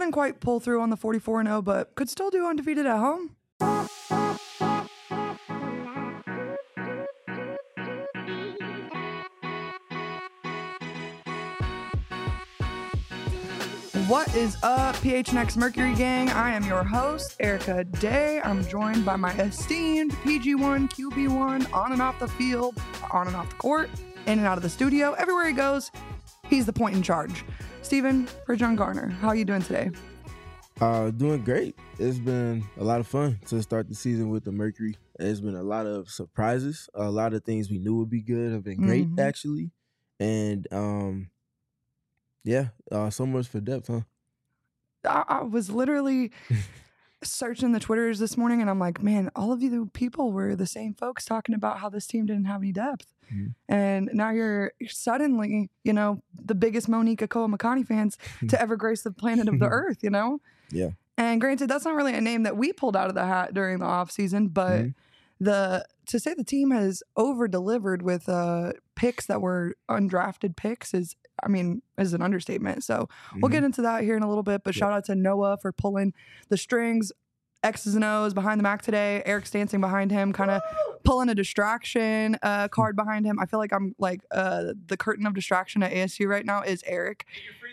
Didn't quite pull through on the 44-0, but could still do undefeated at home. What is up, PHNX Mercury gang? I am your host, Erica Day. I'm joined by my esteemed PG1, QB1, on and off the field, on and off the court, in and out of the studio. Everywhere he goes, he's the point in charge. Steven Bridgeon Garner, how are you doing today? Doing great. It's been a lot of fun to start the season with the Mercury. There's been a lot of surprises. A lot of things we knew would be good have been great, actually. And so much for depth, huh? I was literally searching the Twitters this morning, and I'm like, man, all of you people were the same folks talking about how this team didn't have any depth. And now you're suddenly, the biggest Monique Akoa-Makani fans to ever grace the planet of the earth, Yeah. And granted, that's not really a name that we pulled out of the hat during the offseason, but to say the team has over-delivered with picks that were undrafted picks is an understatement. So we'll get into that here in a little bit, but shout out to Noah for pulling the strings, X's and O's behind the Mac today. Eric's dancing behind him, kind of pulling a distraction card behind him. I feel like I'm like the curtain of distraction at ASU right now is Eric.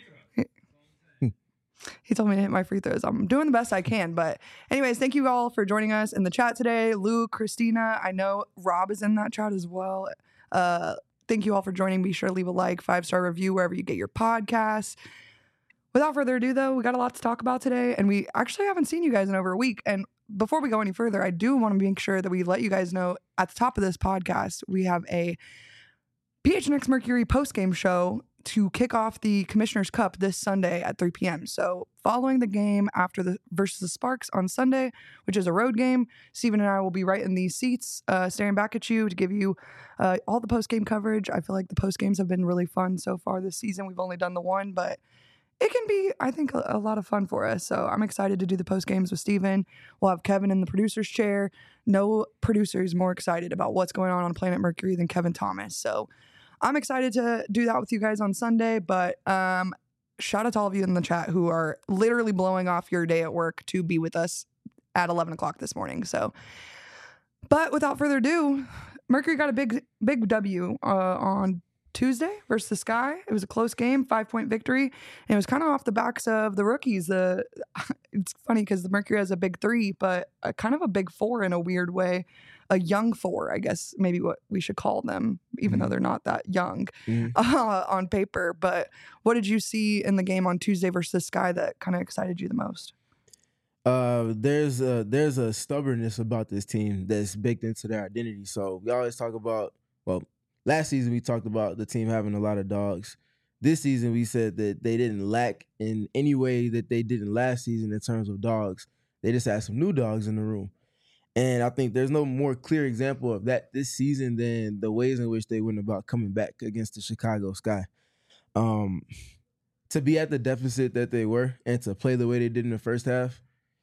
He told me to hit my free throws. I'm doing the best I can. But anyways, thank you all for joining us in the chat today. Luke, Christina, I know Rob is in that chat as well. Thank you all for joining. Be sure to leave a like, 5-star review wherever you get your podcasts. Without further ado, though, we got a lot to talk about today, and we actually haven't seen you guys in over a week. And before we go any further, I do want to make sure that we let you guys know at the top of this podcast, we have a PHNX Mercury postgame show to kick off the Commissioner's Cup this Sunday at 3 p.m. So following the game versus the Sparks on Sunday, which is a road game, Steven and I will be right in these seats staring back at you to give you all the postgame coverage. I feel like the postgames have been really fun so far this season. We've only done the one, but it can be, I think, a lot of fun for us. So I'm excited to do the postgames with Steven. We'll have Kevin in the producer's chair. No producer is more excited about what's going on Planet Mercury than Kevin Thomas. So I'm excited to do that with you guys on Sunday, but shout out to all of you in the chat who are literally blowing off your day at work to be with us at 11 o'clock this morning. So, but without further ado, Mercury got a big W on Tuesday versus the Sky. It was a close game, 5-point victory, and it was kind of off the backs of the rookies. It's funny because the Mercury has a big 3, but kind of a big 4 in a weird way. A young 4, I guess, maybe what we should call them, even though they're not that young on paper. But what did you see in the game on Tuesday versus the Sky that kind of excited you the most? There's a stubbornness about this team that's baked into their identity. So we always talk about, last season we talked about the team having a lot of dogs. This season we said that they didn't lack in any way that they didn't last season in terms of dogs. They just had some new dogs in the room. And I think there's no more clear example of that this season than the ways in which they went about coming back against the Chicago Sky. To be at the deficit that they were and to play the way they did in the first half,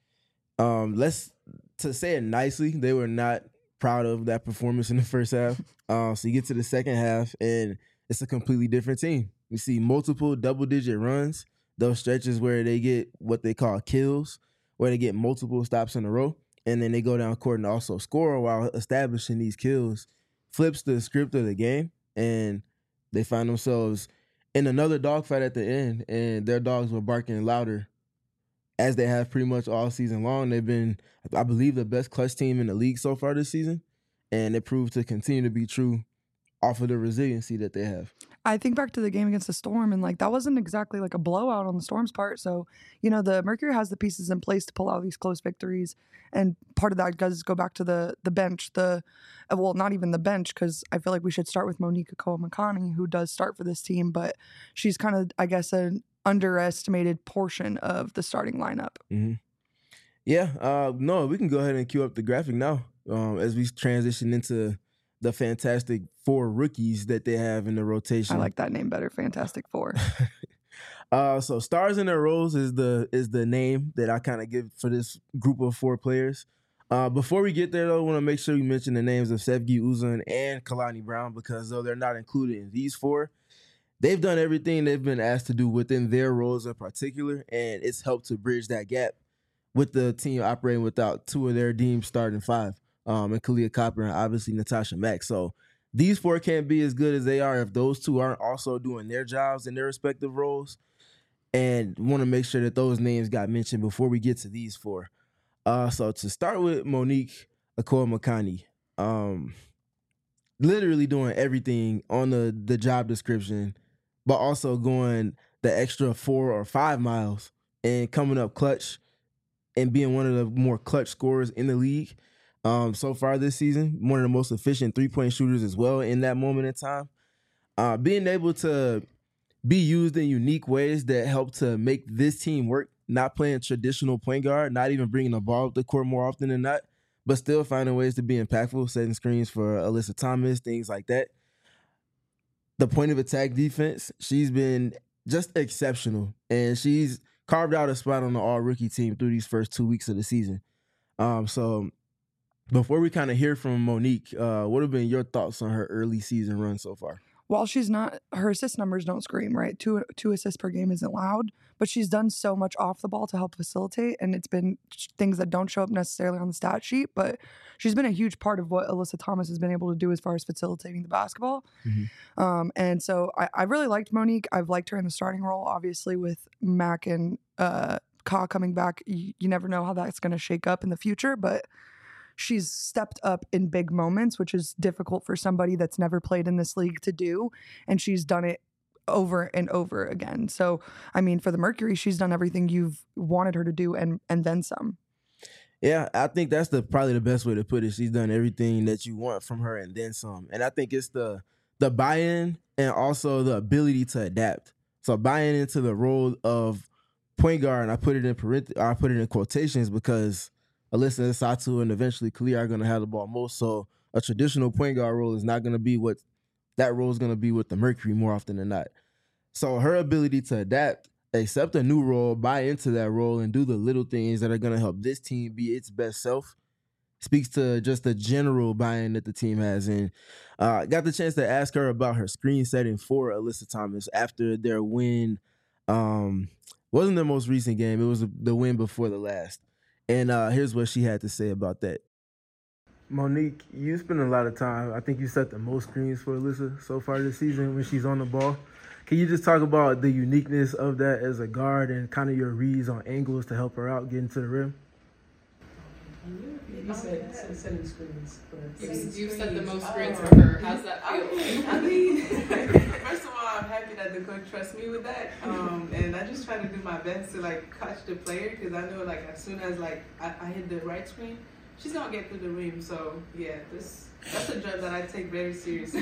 to say it nicely, they were not proud of that performance in the first half. So you get to the second half, and it's a completely different team. We see multiple double-digit runs, those stretches where they get what they call kills, where they get multiple stops in a row. And then they go down court and also score while establishing these kills, flips the script of the game, and they find themselves in another dogfight at the end, and their dogs were barking louder as they have pretty much all season long. They've been, I believe, the best clutch team in the league so far this season, and it proved to continue to be true off of the resiliency that they have. I think back to the game against the Storm, and that wasn't exactly like a blowout on the Storm's part. So, the Mercury has the pieces in place to pull out these close victories. And part of that does go back to the bench, not even the bench, because I feel like we should start with Monique Akoa-Makani, who does start for this team, but she's kind of, I guess, an underestimated portion of the starting lineup. Mm-hmm. Yeah, no, we can go ahead and cue up the graphic now as we transition into the Fantastic Four rookies that they have in the rotation. I like that name better, Fantastic Four. So Stars in Their Roles is the name that I kind of give for this group of 4 players. Before we get there, though, I want to make sure we mention the names of Sevgi Uzun and Kalani Brown, because though they're not included in these 4, they've done everything they've been asked to do within their roles in particular, and it's helped to bridge that gap with the team operating without two of their deemed starting five, and Kalia Copper and obviously Natasha Mack. So these four can't be as good as they are if those two aren't also doing their jobs in their respective roles. And want to make sure that those names got mentioned before we get to these four. So to start with Monique Akoa-Makani, literally doing everything on the job description, but also going the extra 4 or 5 miles and coming up clutch and being one of the more clutch scorers in the league so far this season. One of the most efficient three-point shooters as well in that moment in time. Being able to be used in unique ways that help to make this team work, not playing traditional point guard, not even bringing the ball up the court more often than not, but still finding ways to be impactful, setting screens for Alyssa Thomas, things like that. The point of attack defense, she's been just exceptional, and she's carved out a spot on the all-rookie team through these first 2 weeks of the season. So before we kind of hear from Monique, what have been your thoughts on her early season run so far? While she's not, her assist numbers don't scream, right? Two assists per game isn't loud, but she's done so much off the ball to help facilitate, and it's been things that don't show up necessarily on the stat sheet, but she's been a huge part of what Alyssa Thomas has been able to do as far as facilitating the basketball. Mm-hmm. And so I really liked Monique. I've liked her in the starting role, obviously, with Mac and Ka coming back. You never know how that's going to shake up in the future, but she's stepped up in big moments, which is difficult for somebody that's never played in this league to do. And she's done it over and over again. So, I mean, for the Mercury, she's done everything you've wanted her to do and then some. Yeah, I think that's probably the best way to put it. She's done everything that you want from her and then some. And I think it's the buy-in and also the ability to adapt. So buying into the role of point guard, and I put it in quotations because Alyssa Satu and eventually Kalia are going to have the ball most. So a traditional point guard role is not going to be what that role is going to be with the Mercury more often than not. So her ability to adapt, accept a new role, buy into that role, and do the little things that are going to help this team be its best self speaks to just the general buy-in that the team has. And got the chance to ask her about her screen setting for Alyssa Thomas after their win. Wasn't the most recent game. It was the win before the last. And here's what she had to say about that. Monique, you spend a lot of time. I think you set the most screens for Alyssa so far this season when she's on the ball. Can you just talk about the uniqueness of that as a guard and kind of your reads on angles to help her out getting to the rim? You said setting screens. You set the most screens for her. How's that feel? I mean, first of all, I'm happy that the coach trusts me with that. And I just try to do my best to catch the player because I know as soon as I hit the right screen, she's gonna get through the rim. So yeah, that's a job that I take very seriously.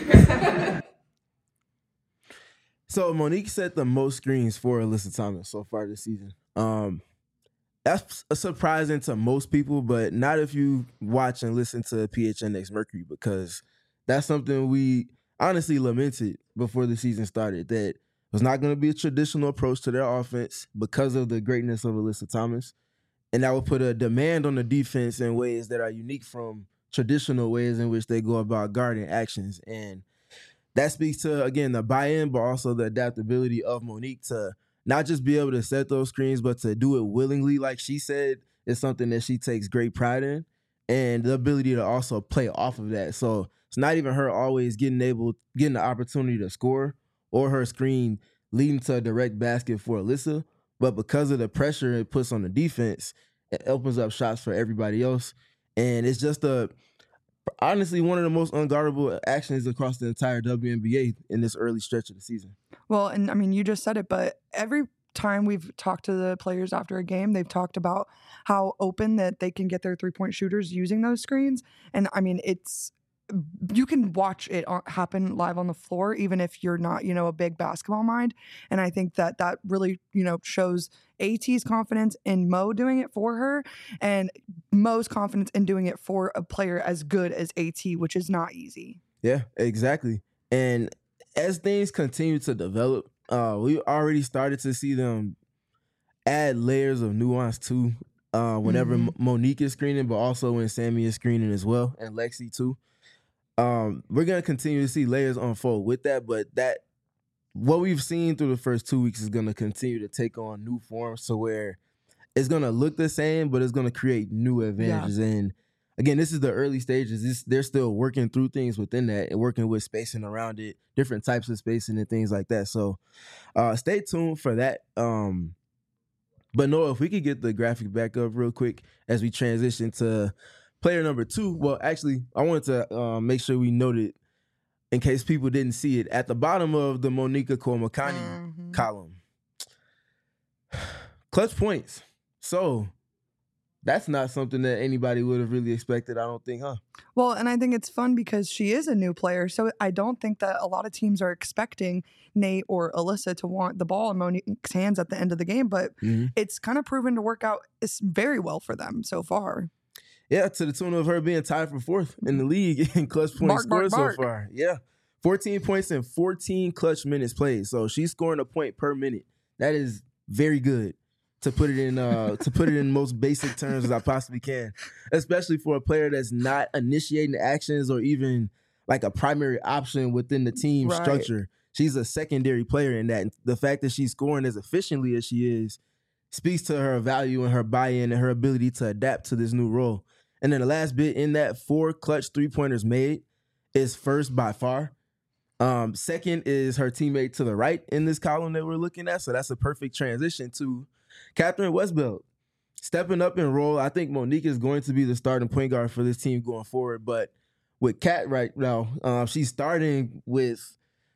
So Monique set the most screens for Alyssa Thomas so far this season. That's surprising to most people, but not if you watch and listen to PHNX Mercury, because that's something we honestly lamented before the season started, that it was not going to be a traditional approach to their offense because of the greatness of Alyssa Thomas. And that would put a demand on the defense in ways that are unique from traditional ways in which they go about guarding actions. And that speaks to, again, the buy-in, but also the adaptability of Monique to not just be able to set those screens, but to do it willingly, like she said, is something that she takes great pride in. And the ability to also play off of that. So it's not even her always getting the opportunity to score or her screen leading to a direct basket for Alyssa. But because of the pressure it puts on the defense, it opens up shots for everybody else. And it's just honestly one of the most unguardable actions across the entire WNBA in this early stretch of the season. Well, and I mean, you just said it, but every time we've talked to the players after a game, they've talked about how open that they can get their three-point shooters using those screens. And I mean, you can watch it happen live on the floor, even if you're not, a big basketball mind. And I think that really, shows AT's confidence in Mo doing it for her and Mo's confidence in doing it for a player as good as AT, which is not easy. Yeah, exactly. And as things continue to develop, we already started to see them add layers of nuance too. Whenever Monique is screening, but also when Sammy is screening as well, and Lexi too. We're going to continue to see layers unfold with that, but that what we've seen through the first 2 weeks is going to continue to take on new forms to where it's going to look the same, but it's going to create new advantages. Yeah. And again, this is the early stages. They're still working through things within that and working with spacing around it, different types of spacing and things like that. So stay tuned for that. But Noah, if we could get the graphic back up real quick as we transition to player number 2. Well, actually, I wanted to make sure we noted, in case people didn't see it, at the bottom of the Monica Komakani column, clutch points. So that's not something that anybody would have really expected, I don't think, huh? Well, and I think it's fun because she is a new player, so I don't think that a lot of teams are expecting Nate or Alyssa to want the ball in Monique's hands at the end of the game, but it's kind of proven to work out very well for them so far. Yeah, to the tune of her being tied for 4th in the league in clutch points scored so far. Yeah, 14 points in 14 clutch minutes played, so she's scoring a point per minute. That is very good. To put it in most basic terms as I possibly can, especially for a player that's not initiating actions or even like a primary option within the team structure. She's a secondary player in that. And the fact that she's scoring as efficiently as she is speaks to her value and her buy-in and her ability to adapt to this new role. And then the last bit in that, 4 clutch 3-pointers made is first by far. Second is her teammate to the right in this column that we're looking at. So that's a perfect transition to Catherine Westbeld stepping up in role. I think Monique is going to be the starting point guard for this team going forward. But with Kat right now, she's starting with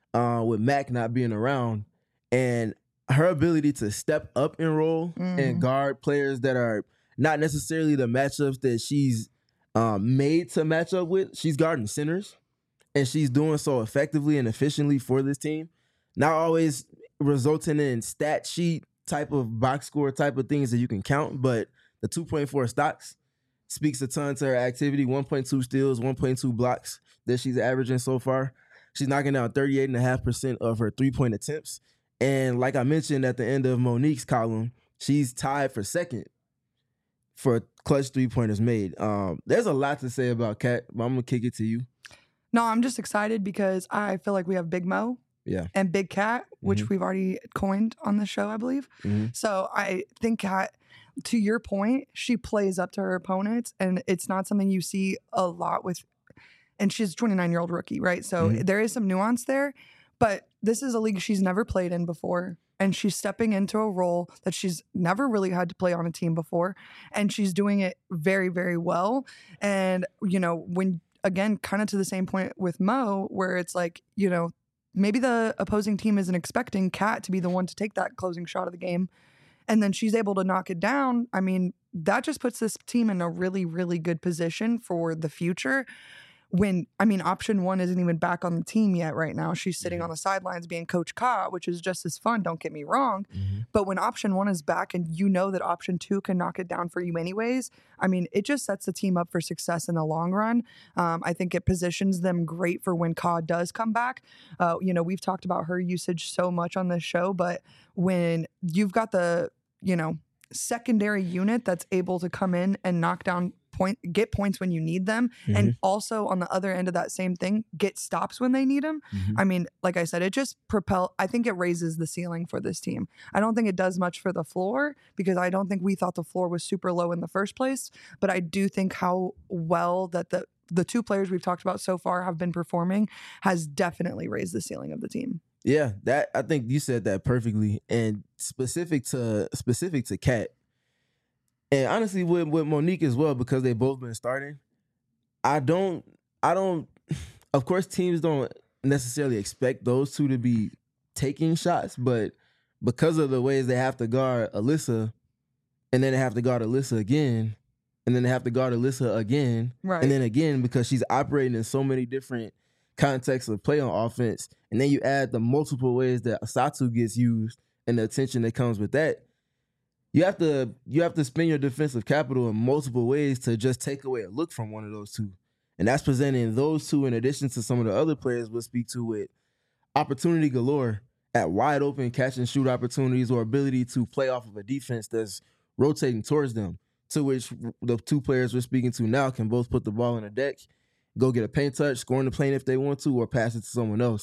Mac not being around, and her ability to step up in role and guard players that are not necessarily the matchups that she's made to match up with. She's guarding centers, and she's doing so effectively and efficiently for this team. Not always resulting in stat sheet type of box score type of things that you can count, but the 2.4 stocks speaks a ton to her activity. 1.2 steals, 1.2 blocks that she's averaging so far. She's knocking down 38.5% of her 3-point attempts. And like I mentioned at the end of Monique's column, she's tied for 2nd for clutch 3-pointers made. There's a lot to say about Kat, but I'm going to kick it to you. No, I'm just excited because I feel like we have Big Mo. Yeah. And Big Cat, which we've already coined on the show, I believe. So I think Cat, to your point, she plays up to her opponents, and it's not something you see a lot with, and she's a 29-year-old rookie, right? So there is some nuance there, but this is a league she's never played in before, and she's stepping into a role that she's never really had to play on a team before, and she's doing it very, very well. And, you know, when, again, kind of to the same point with Mo, where it's like, you know, maybe the opposing team isn't expecting Kat to be the one to take that closing shot of the game, and then she's able to knock it down. I mean, that just puts this team in a really, really good position for the future. When, I mean, option 1 isn't even back on the team yet right now. She's sitting on the sidelines being Coach Ka, which is just as fun, don't get me wrong. But when option 1 is back and you know that option 2 can knock it down for you anyways, I mean, it just sets the team up for success in the long run. I think it positions them great for when Ka does come back. You know, we've talked about her usage so much on this show, but when you've got the, you know, secondary unit that's able to come in and knock down get points when you need them, and also on the other end of that same thing, get stops when they need them. I mean, like I said, it just I think it raises the ceiling for this team. I don't think it does much for the floor, because I don't think we thought the floor was super low in the first place, but I do think how well that the 2 players we've talked about so far have been performing has definitely raised the ceiling of the team. Yeah, that, I think you said that perfectly. And specific to Kat, and honestly with Monique as well, because they've both been starting, I don't of course teams don't necessarily expect those 2 to be taking shots, but because of the ways they have to guard Alyssa, and then they have to guard Alyssa again, and then they have to guard Alyssa again, and then again, because she's operating in so many different contexts of play on offense, and then you add the multiple ways that Asatu gets used and the attention that comes with that, you have to spend your defensive capital in multiple ways to just take away a look from one of those 2. And that's presenting those 2 in addition to some of the other players we'll speak to with opportunity galore at wide open catch and shoot opportunities, or ability to play off of a defense that's rotating towards them, to which the 2 players we're speaking to now can both put the ball on the deck, go get a paint touch, score in the paint if they want to, or pass it to someone else.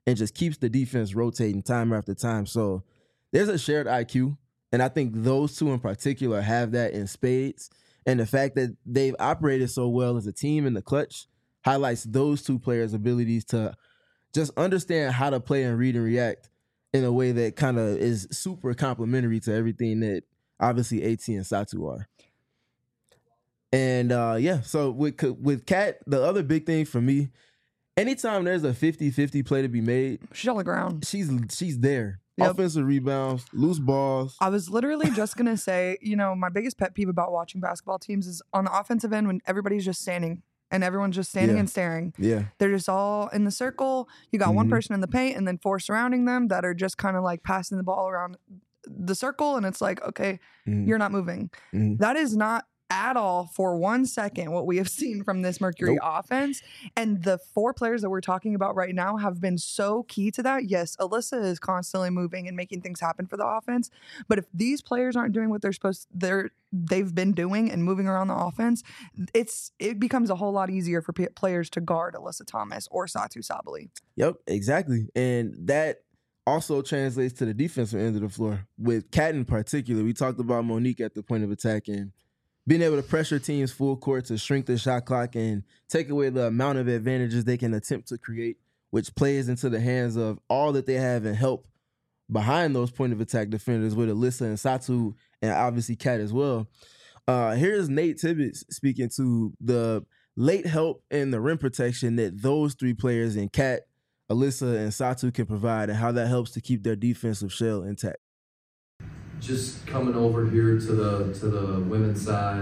and just keeps the defense rotating time after time. So there's a shared IQ, and I think those two in particular have that in spades. And the fact that they've operated so well as a team in the clutch highlights those two players' abilities to just understand how to play and read and react in a way that kind of is super complementary to everything that obviously AT and Satu are. And so with Kat, the other big thing for me, anytime there's a 50-50 play to be made, she's on the ground. She's there. Yep. Offensive rebounds, loose balls. I was literally just going to say, my biggest pet peeve about watching basketball teams is on the offensive end when everybody's just standing and everyone's just standing and staring. Yeah. They're just all in the circle. You got one person in the paint and then four surrounding them that are just kind of like passing the ball around the circle. And it's like, okay, you're not moving. That is not at all for 1 second what we have seen from this Mercury offense. And the four players that we're talking about right now have been so key to that. Yes, Alyssa is constantly moving and making things happen for the offense. But if these players aren't doing what they've been doing and moving around the offense, it becomes a whole lot easier for players to guard Alyssa Thomas or Satu Sabally. Yep, exactly. And that also translates to the defensive end of the floor. With Kat in particular, we talked about Monique at the point of attack and being able to pressure teams full court to shrink the shot clock and take away the amount of advantages they can attempt to create, which plays into the hands of all that they have and help behind those point of attack defenders with Alyssa and Satu and obviously Kat as well. Here's Nate Tibbetts speaking to the late help and the rim protection that those three players in Kat, Alyssa, and Satu can provide and how that helps to keep their defensive shell intact. Just coming over here to the women's side,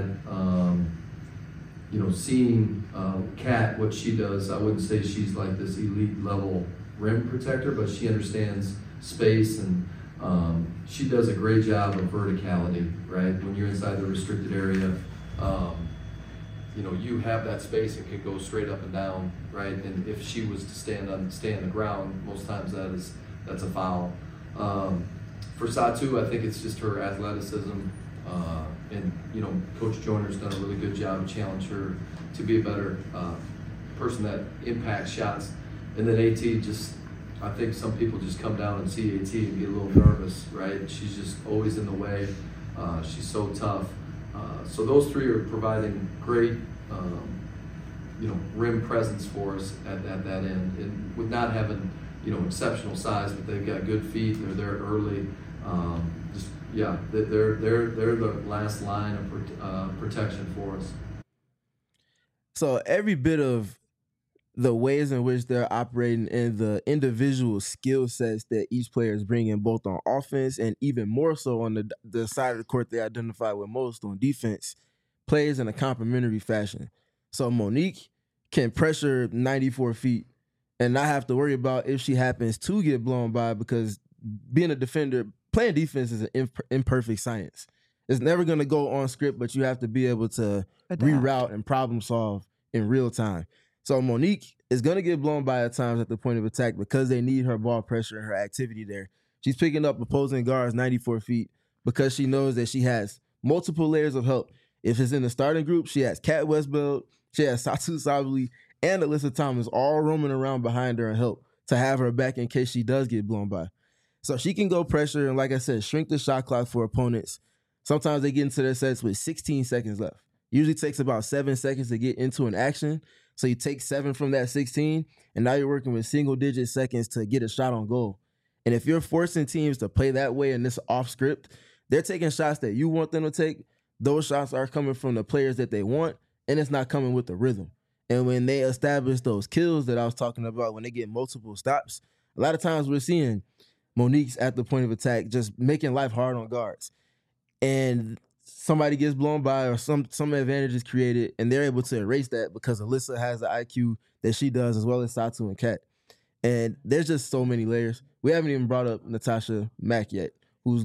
seeing Kat, what she does, I wouldn't say she's like this elite level rim protector, but she understands space and she does a great job of verticality, right? When you're inside the restricted area, you have that space and can go straight up and down, right? And if she was to stay on the ground, most times that's a foul. For Satu, I think it's just her athleticism, and Coach Joyner's done a really good job to challenge her to be a better person that impacts shots. And then AT I think some people just come down and see AT and get a little nervous, right? She's just always in the way. She's so tough. So those three are providing great, rim presence for us at that end, and with not having exceptional size, but they've got good feet. They're there early. They're the last line of protection for us. So every bit of the ways in which they're operating and the individual skill sets that each player is bringing, both on offense and even more so on the side of the court they identify with most on defense, plays in a complementary fashion. So Monique can pressure 94 feet and not have to worry about if she happens to get blown by, because being a defender, playing defense is an imperfect science. It's never going to go on script, but you have to be able to reroute and problem solve in real time. So Monique is going to get blown by at times at the point of attack because they need her ball pressure and her activity there. She's picking up opposing guards 94 feet because she knows that she has multiple layers of help. If it's in the starting group, she has Kat Westbeld, she has Satu Sabally, and Alyssa Thomas all roaming around behind her and help to have her back in case she does get blown by. So she can go pressure and, like I said, shrink the shot clock for opponents. Sometimes they get into their sets with 16 seconds left. Usually takes about 7 seconds to get into an action. So you take 7 from that 16, and now you're working with single-digit seconds to get a shot on goal. And if you're forcing teams to play that way in this off script, they're taking shots that you want them to take. Those shots are coming from the players that they want, and it's not coming with the rhythm. And when they establish those kills that I was talking about, when they get multiple stops, a lot of times we're seeing Monique's at the point of attack just making life hard on guards. And somebody gets blown by or some advantage is created, and they're able to erase that because Alyssa has the IQ that she does, as well as Satu and Kat. And there's just so many layers. We haven't even brought up Natasha Mack yet, who's...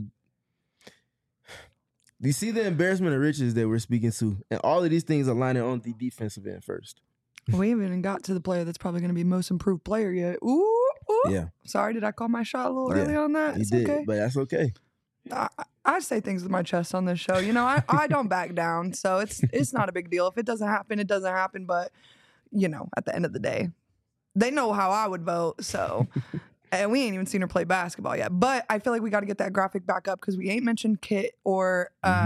Do you see the embarrassment of riches that we're speaking to? And all of these things are lining on the defensive end first. We haven't even got to the player that's probably going to be most improved player yet. Ooh. Yeah. Sorry, did I call my shot a little early on that? You it's did, okay. But that's okay. I say things with my chest on this show. I don't back down, so it's not a big deal. If it doesn't happen, it doesn't happen. But, at the end of the day, they know how I would vote. So And we ain't even seen her play basketball yet. But I feel like we got to get that graphic back up because we ain't mentioned Kit or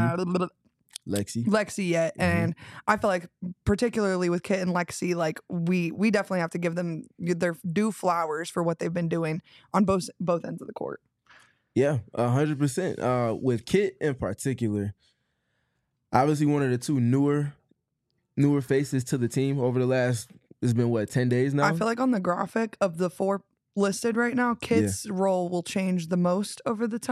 Lexi yet. And I feel like particularly with Kit and Lexi, like we definitely have to give them their due flowers for what they've been doing on both ends of the court. Yeah, 100%. With Kit in particular, obviously one of the two newer faces to the team over the last, it's been what, 10 days now? I feel like on the graphic of the 4 listed right now, Kit's role will change the most over the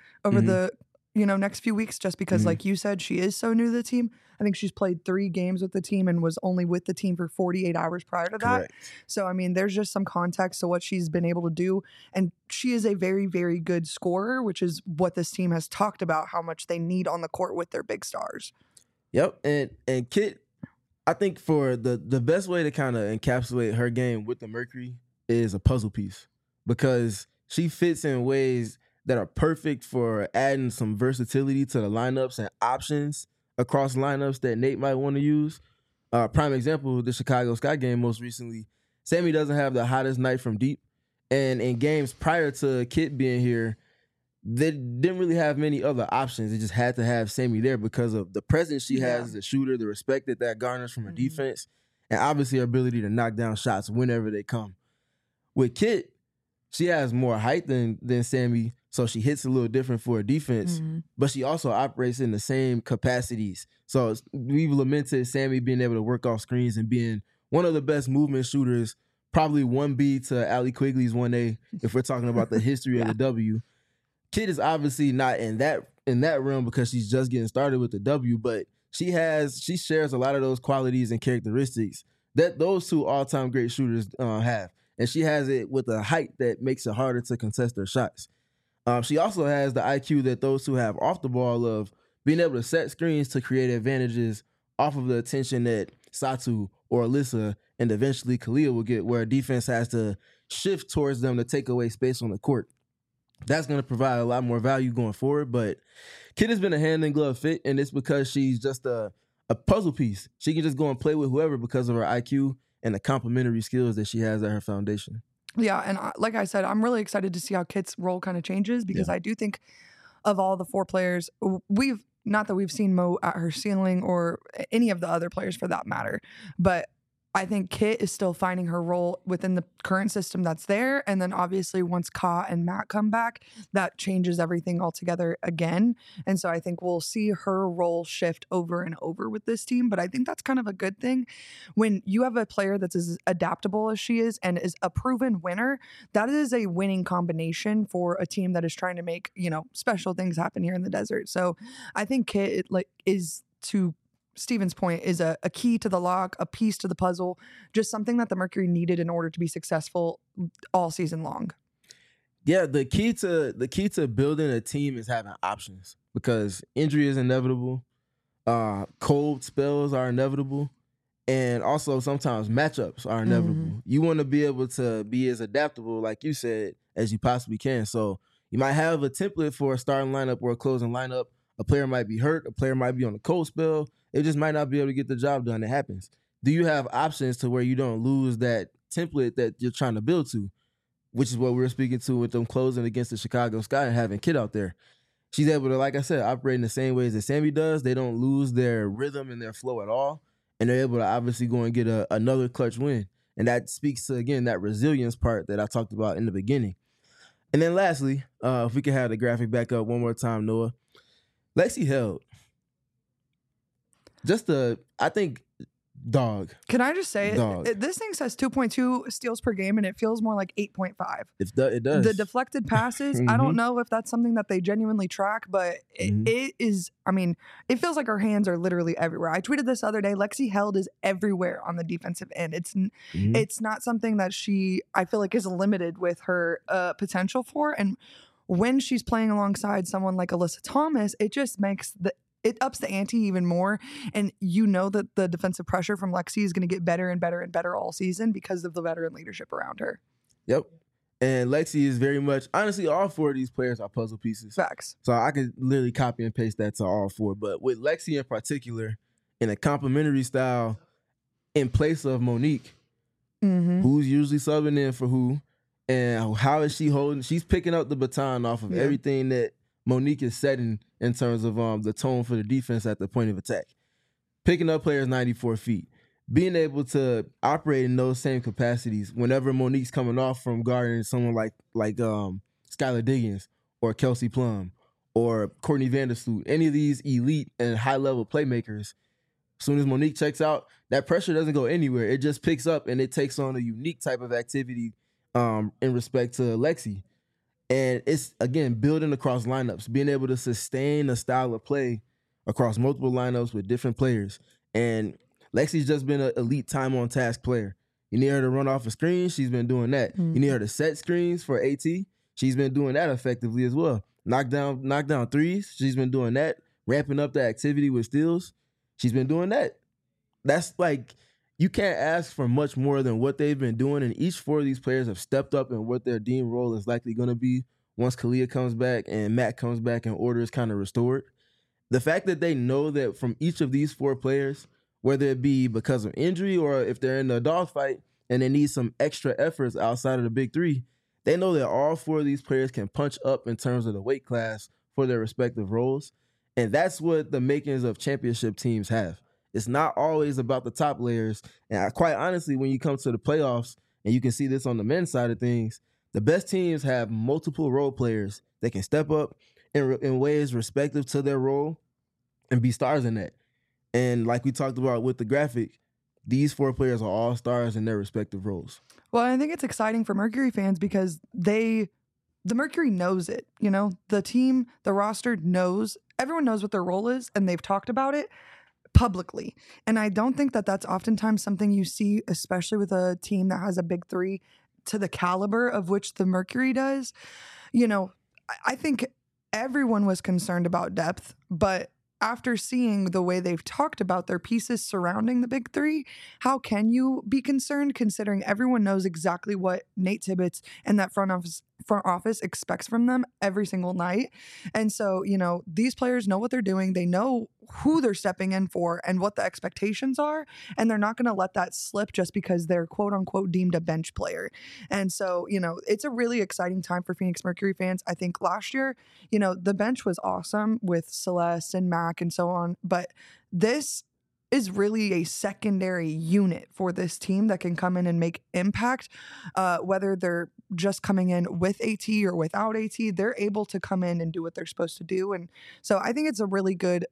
next few weeks, just because like you said, she is so new to the team. I think she's played 3 games with the team and was only with the team for 48 hours prior to that. Correct. So, I mean, there's just some context to what she's been able to do. And she is a very, very good scorer, which is what this team has talked about, how much they need on the court with their big stars. Yep. And Kit, I think for the best way to kind of encapsulate her game with the Mercury is a puzzle piece, because she fits in ways that are perfect for adding some versatility to the lineups and options across lineups that Nate might want to use. Prime example, the Chicago Sky game most recently. Sammy doesn't have the hottest night from deep. And in games prior to Kit being here, they didn't really have many other options. They just had to have Sammy there because of the presence she has as a shooter, the respect that garners from her defense, and obviously her ability to knock down shots whenever they come. With Kit, she has more height than Sammy, so she hits a little different for her defense, but she also operates in the same capacities. So we've lamented Sammy being able to work off screens and being one of the best movement shooters, probably 1B to Allie Quigley's 1A, if we're talking about the history of the W. Kit is obviously not in that realm because she's just getting started with the W, but she shares a lot of those qualities and characteristics that those two all-time great shooters have. And she has it with a height that makes it harder to contest their shots. She also has the IQ that those two have off the ball of being able to set screens to create advantages off of the attention that Satu or Alyssa and eventually Kalia will get, where defense has to shift towards them to take away space on the court. That's going to provide a lot more value going forward. But Kit has been a hand-in-glove fit, and it's because she's just a puzzle piece. She can just go and play with whoever because of her IQ and the complementary skills that she has at her foundation. Yeah, and like I said, I'm really excited to see how Kit's role kind of changes, because I do think of all the 4 players, not that we've seen Mo at her ceiling or any of the other players for that matter, but I think Kit is still finding her role within the current system that's there. And then obviously once Ka and Matt come back, that changes everything altogether again. And so I think we'll see her role shift over and over with this team. But I think that's kind of a good thing. When you have a player that's as adaptable as she is and is a proven winner, that is a winning combination for a team that is trying to make, special things happen here in the desert. So I think Kit is, to Steven's point, is a key to the lock, a piece to the puzzle, just something that the Mercury needed in order to be successful all season long. Yeah, the key to building a team is having options, because injury is inevitable, cold spells are inevitable, and also sometimes matchups are inevitable. You want to be able to be as adaptable, like you said, as you possibly can. So you might have a template for a starting lineup or a closing lineup. A player might be hurt, a player might be on a cold spell. It just might not be able to get the job done. It happens. Do you have options to where you don't lose that template that you're trying to build to, which is what we were speaking to with them closing against the Chicago Sky and having Kit out there. She's able to, like I said, operate in the same ways that Sammy does. They don't lose their rhythm and their flow at all, and they're able to obviously go and get another clutch win. And that speaks to, again, that resilience part that I talked about in the beginning. And then lastly, if we could have the graphic back up one more time, Noah. Lexi Held. I think, dog. Can I just say, dog. This thing says 2.2 steals per game, and it feels more like 8.5. It does. The deflected passes, I don't know if that's something that they genuinely track, but it is, it feels like her hands are literally everywhere. I tweeted this other day, Lexi Held is everywhere on the defensive end. It's not something that I feel like is limited with her potential for, and when she's playing alongside someone like Alyssa Thomas, it just makes it ups the ante even more. And you know that the defensive pressure from Lexi is going to get better and better and better all season because of the veteran leadership around her. Yep. And Lexi is very much, honestly, all 4 of these players are puzzle pieces. Facts. So I could literally copy and paste that to all 4. But with Lexi in particular, in a complementary style, in place of Monique, who's usually subbing in for who, And how is she holding? She's picking up the baton off of everything that Monique is setting in terms of the tone for the defense at the point of attack. Picking up players 94 feet. Being able to operate in those same capacities whenever Monique's coming off from guarding someone like Skylar Diggins or Kelsey Plum or Courtney Vandersloot, any of these elite and high-level playmakers, as soon as Monique checks out, that pressure doesn't go anywhere. It just picks up and it takes on a unique type of activity in respect to Lexi. And it's, again, building across lineups, being able to sustain a style of play across multiple lineups with different players. And Lexi's just been an elite time-on-task player. You need her to run off a screen, she's been doing that. You need her to set screens for AT, she's been doing that effectively as well. Knock down threes, she's been doing that. Ramping up the activity with steals, she's been doing that. That's like, you can't ask for much more than what they've been doing, and each four of these players have stepped up in what their deemed role is likely going to be once Kalia comes back and Matt comes back and order is kind of restored. The fact that they know that from each of these four players, whether it be because of injury or if they're in a dogfight and they need some extra efforts outside of the big three, they know that all four of these players can punch up in terms of the weight class for their respective roles. And that's what the makings of championship teams have. It's not always about the top layers. And quite honestly, when you come to the playoffs, and you can see this on the men's side of things, the best teams have multiple role players that can step up in ways respective to their role and be stars in that. And like we talked about with the graphic, these four players are all stars in their respective roles. Well, I think it's exciting for Mercury fans because the Mercury knows it. You know, the team, the roster knows, everyone knows what their role is, and they've talked about it publicly. And I don't think that that's oftentimes something you see, especially with a team that has a big three to the caliber of which the Mercury does. You know, I think everyone was concerned about depth, but after seeing the way they've talked about their pieces surrounding the big three, how can you be concerned considering everyone knows exactly what Nate Tibbetts and that front office expects from them every single night? And so, you know, these players know what they're doing. They know who they're stepping in for and what the expectations are. And they're not going to let that slip just because they're quote unquote deemed a bench player. And so, you know, it's a really exciting time for Phoenix Mercury fans. I think last year, you know, the bench was awesome with Celeste and Mac and so on. But this is really a secondary unit for this team that can come in and make impact, whether they're just coming in with AT or without AT. They're able to come in and do what they're supposed to do. And so I think it's a really good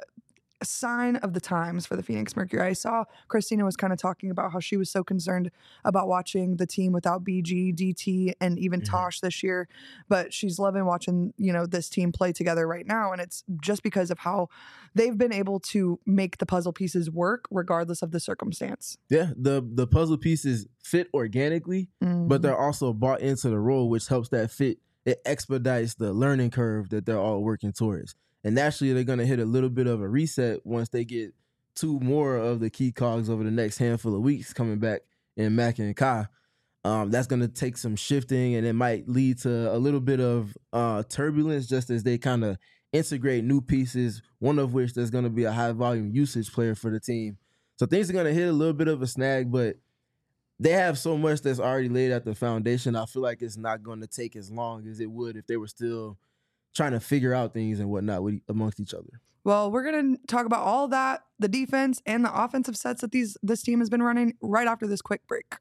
sign of the times for the Phoenix Mercury. I saw Christina was kind of talking about how she was so concerned about watching the team without BG, DT, and even Tosh this year, but she's loving watching, you know, this team play together right now. And it's just because of how they've been able to make the puzzle pieces work regardless of the circumstance. Yeah, the puzzle pieces fit organically, but they're also bought into the role, which helps that fit. It expedites the learning curve that they're all working towards. And naturally, they're going to hit a little bit of a reset once they get two more of the key cogs over the next handful of weeks coming back in Mac and Kai. That's going to take some shifting, and it might lead to a little bit of turbulence just as they kind of integrate new pieces, one of which there's going to be a high-volume usage player for the team. So things are going to hit a little bit of a snag, but they have so much that's already laid at the foundation. I feel like it's not going to take as long as it would if they were still trying to figure out things and whatnot amongst each other. Well, we're going to talk about all that, the defense and the offensive sets that this team has been running right after this quick break.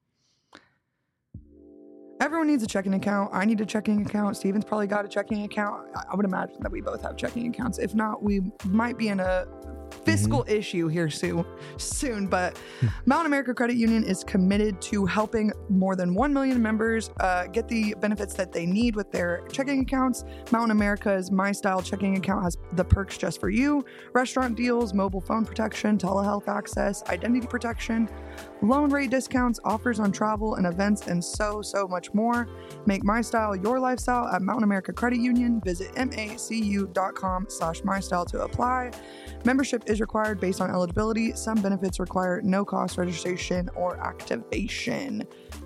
Everyone needs a checking account. I need a checking account. Steven's probably got a checking account. I would imagine that we both have checking accounts. If not, we might be in a fiscal issue here soon. But Mountain America Credit Union is committed to helping more than 1 million members get the benefits that they need with their checking accounts. Mountain America's My Style checking account has the perks just for you: restaurant deals, mobile phone protection, telehealth access, identity protection, loan rate discounts, offers on travel and events, and so much more. Make My Style your lifestyle at Mountain America Credit Union. Visit macu.com/mystyle to apply. Membership is required based on eligibility. Some benefits require no cost registration or activation.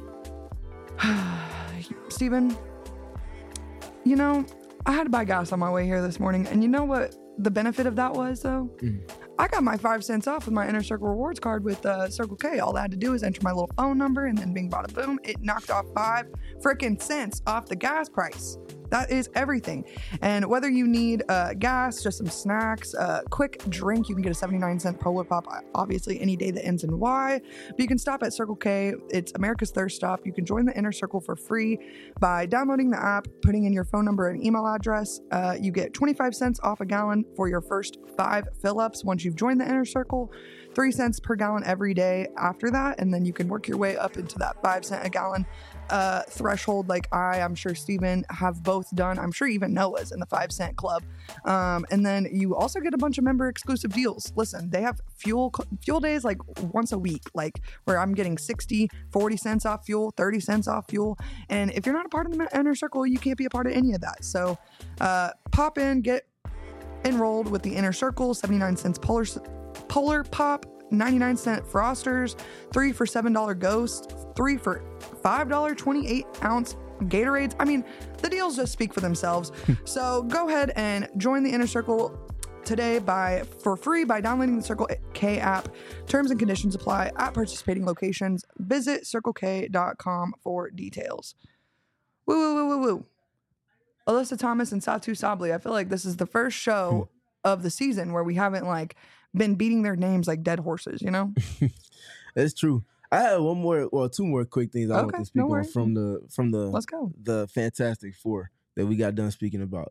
Steven, you know, I had to buy gas on my way here this morning, and you know what the benefit of that was, though? I got my 5 cents off with my Inner Circle rewards card with Circle K. All I had to do is enter my little phone number, and then bing, bada, boom, it knocked off 5 freaking cents off the gas price. That is everything. And whether you need gas, just some snacks, a quick drink, you can get a 79-cent Polar Pop, obviously any day that ends in Y. But you can stop at Circle K. It's America's Thirst Stop. You can join the Inner Circle for free by downloading the app, putting in your phone number and email address. You get 25 cents off a gallon for your first 5 fill-ups once you've joined the Inner Circle. 3 cents per gallon every day after that, and then you can work your way up into that 5 cent a gallon threshold, like I'm sure Steven have both done. I'm sure even Noah's in the 5 cent club. And then you also get a bunch of member exclusive deals. Listen, they have fuel days like once a week, like where I'm getting 60, 40 cents off fuel, 30 cents off fuel. And if you're not a part of the Inner Circle, you can't be a part of any of that. So pop in, get enrolled with the Inner Circle. 79 cents Polar Pop, 99-cent Frosters, 3 for $7 Ghost, 3 for $5 28-ounce Gatorades. I mean, the deals just speak for themselves. So go ahead and join the Inner Circle today for free by downloading the Circle K app. Terms and conditions apply at participating locations. Visit CircleK.com for details. Woo, woo, woo, woo, woo. Alyssa Thomas and Satu Sabli. I feel like this is the first show of the season where we haven't been beating their names like dead horses, you know? That's true. I have two more quick things I want to speak on from the Let's go. The Fantastic Four that we got done speaking about.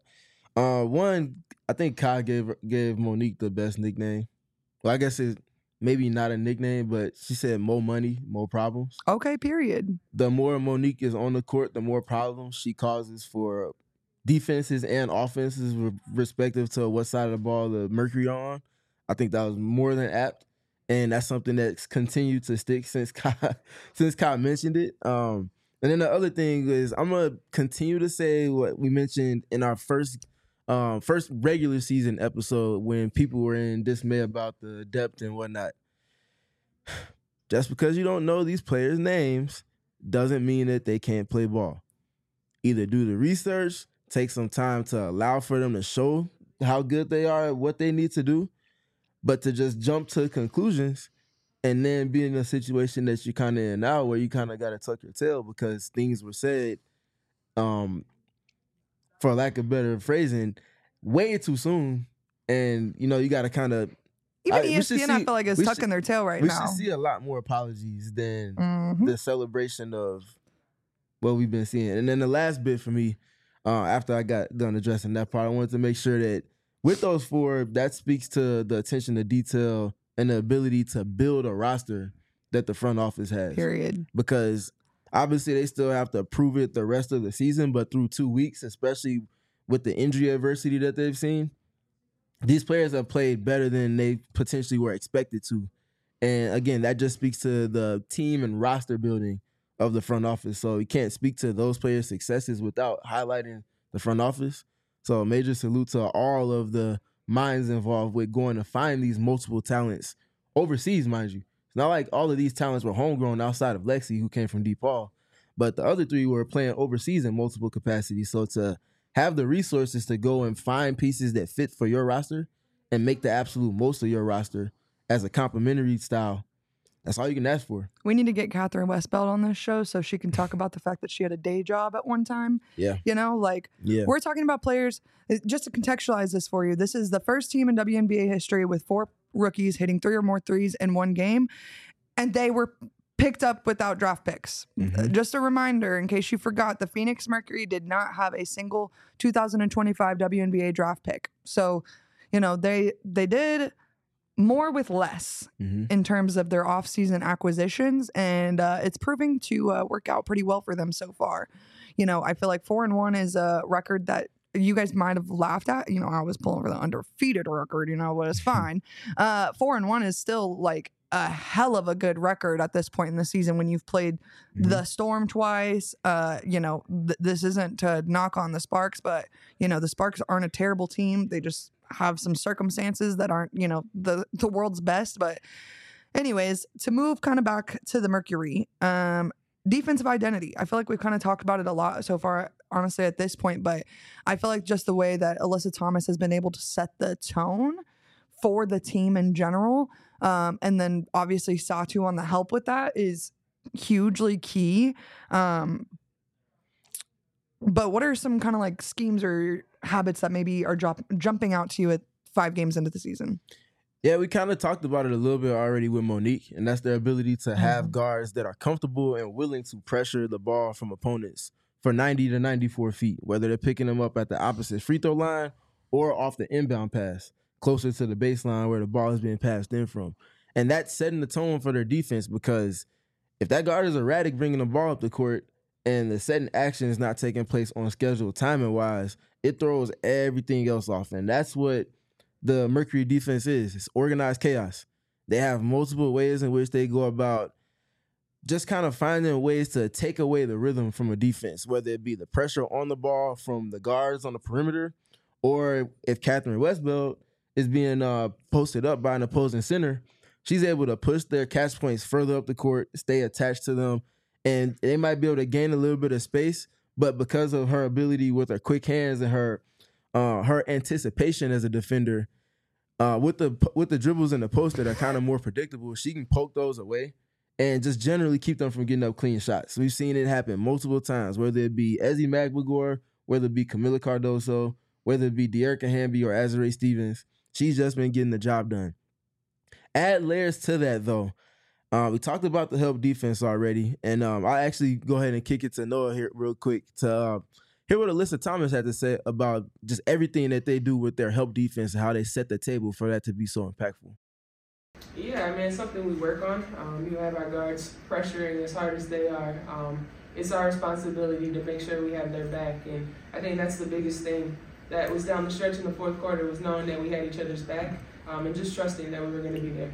One, I think Kai gave Monique the best nickname. Well, I guess it's maybe not a nickname, but she said more money, more problems. Okay, period. The more Monique is on the court, the more problems she causes for defenses and offenses, respective to what side of the ball the Mercury on. I think that was more than apt, and that's something that's continued to stick since Kai mentioned it. And then the other thing is I'm gonna continue to say what we mentioned in our first regular season episode when people were in dismay about the depth and whatnot. Just because you don't know these players' names doesn't mean that they can't play ball. Either do the research, take some time to allow for them to show how good they are at what they need to do. But to just jump to conclusions and then be in a situation that you're kind of in now where you kind of got to tuck your tail because things were said, for lack of better phrasing, way too soon. And, you got to kind of... Even ESPN, I feel like, is tucking their tail right now. We should see a lot more apologies than the celebration of what we've been seeing. And then the last bit for me, after I got done addressing that part, I wanted to make sure that with those 4, that speaks to the attention to detail and the ability to build a roster that the front office has. Period. Because obviously they still have to prove it the rest of the season, but through 2 weeks, especially with the injury adversity that they've seen, these players have played better than they potentially were expected to. And again, that just speaks to the team and roster building of the front office. So you can't speak to those players' successes without highlighting the front office. So a major salute to all of the minds involved with going to find these multiple talents overseas, mind you. It's not like all of these talents were homegrown outside of Lexi, who came from DePaul, but the other 3 were playing overseas in multiple capacities. So to have the resources to go and find pieces that fit for your roster and make the absolute most of your roster as a complementary style, that's all you can ask for. We need to get Catherine Westbeld on this show so she can talk about the fact that she had a day job at one time. Yeah. We're talking about players. Just to contextualize this for you, this is the first team in WNBA history with 4 rookies hitting 3 or more threes in one game, and they were picked up without draft picks. Just a reminder, in case you forgot, the Phoenix Mercury did not have a single 2025 WNBA draft pick. So, they did more with less in terms of their offseason acquisitions, and it's proving to work out pretty well for them so far. I feel like 4-1 is a record that you guys might have laughed at. I was pulling for the undefeated record, but it's fine. 4-1 is still like a hell of a good record at this point in the season when you've played the Storm twice. This isn't to knock on the Sparks, but, the Sparks aren't a terrible team. They just have some circumstances that aren't, the world's best. But anyways, to move kind of back to the Mercury, defensive identity. I feel like we've kind of talked about it a lot so far, honestly, at this point, but I feel like just the way that Alyssa Thomas has been able to set the tone for the team in general. And then obviously Satu on the help with that is hugely key. But what are some kind of like schemes or habits that maybe are jumping out to you at 5 games into the season? Yeah, we kind of talked about it a little bit already with Monique, and that's their ability to have guards that are comfortable and willing to pressure the ball from opponents for 90 to 94 feet, whether they're picking them up at the opposite free throw line or off the inbound pass, closer to the baseline where the ball is being passed in from. And that's setting the tone for their defense, because if that guard is erratic bringing the ball up the court and the setting action is not taking place on schedule timing-wise, it throws everything else off. And that's what the Mercury defense is. It's organized chaos. They have multiple ways in which they go about just kind of finding ways to take away the rhythm from a defense, whether it be the pressure on the ball from the guards on the perimeter, or if Catherine Westbeld is being posted up by an opposing center, she's able to push their catch points further up the court, stay attached to them, and they might be able to gain a little bit of space, but because of her ability with her quick hands and her anticipation as a defender, with the dribbles in the post that are kind of more predictable, she can poke those away and just generally keep them from getting up clean shots. We've seen it happen multiple times, whether it be Ezzy Magbagor, whether it be Camila Cardoso, whether it be De'Erica Hamby or Azurá Stevens. She's just been getting the job done. Add layers to that, though. We talked about the help defense already, and I'll actually go ahead and kick it to Noah here real quick to hear what Alyssa Thomas had to say about just everything that they do with their help defense and how they set the table for that to be so impactful. Yeah, I mean, it's something we work on. You have our guards pressuring as hard as they are. It's our responsibility to make sure we have their back, and I think that's the biggest thing that was down the stretch in the fourth quarter, was knowing that we had each other's back, and just trusting that we were going to be there.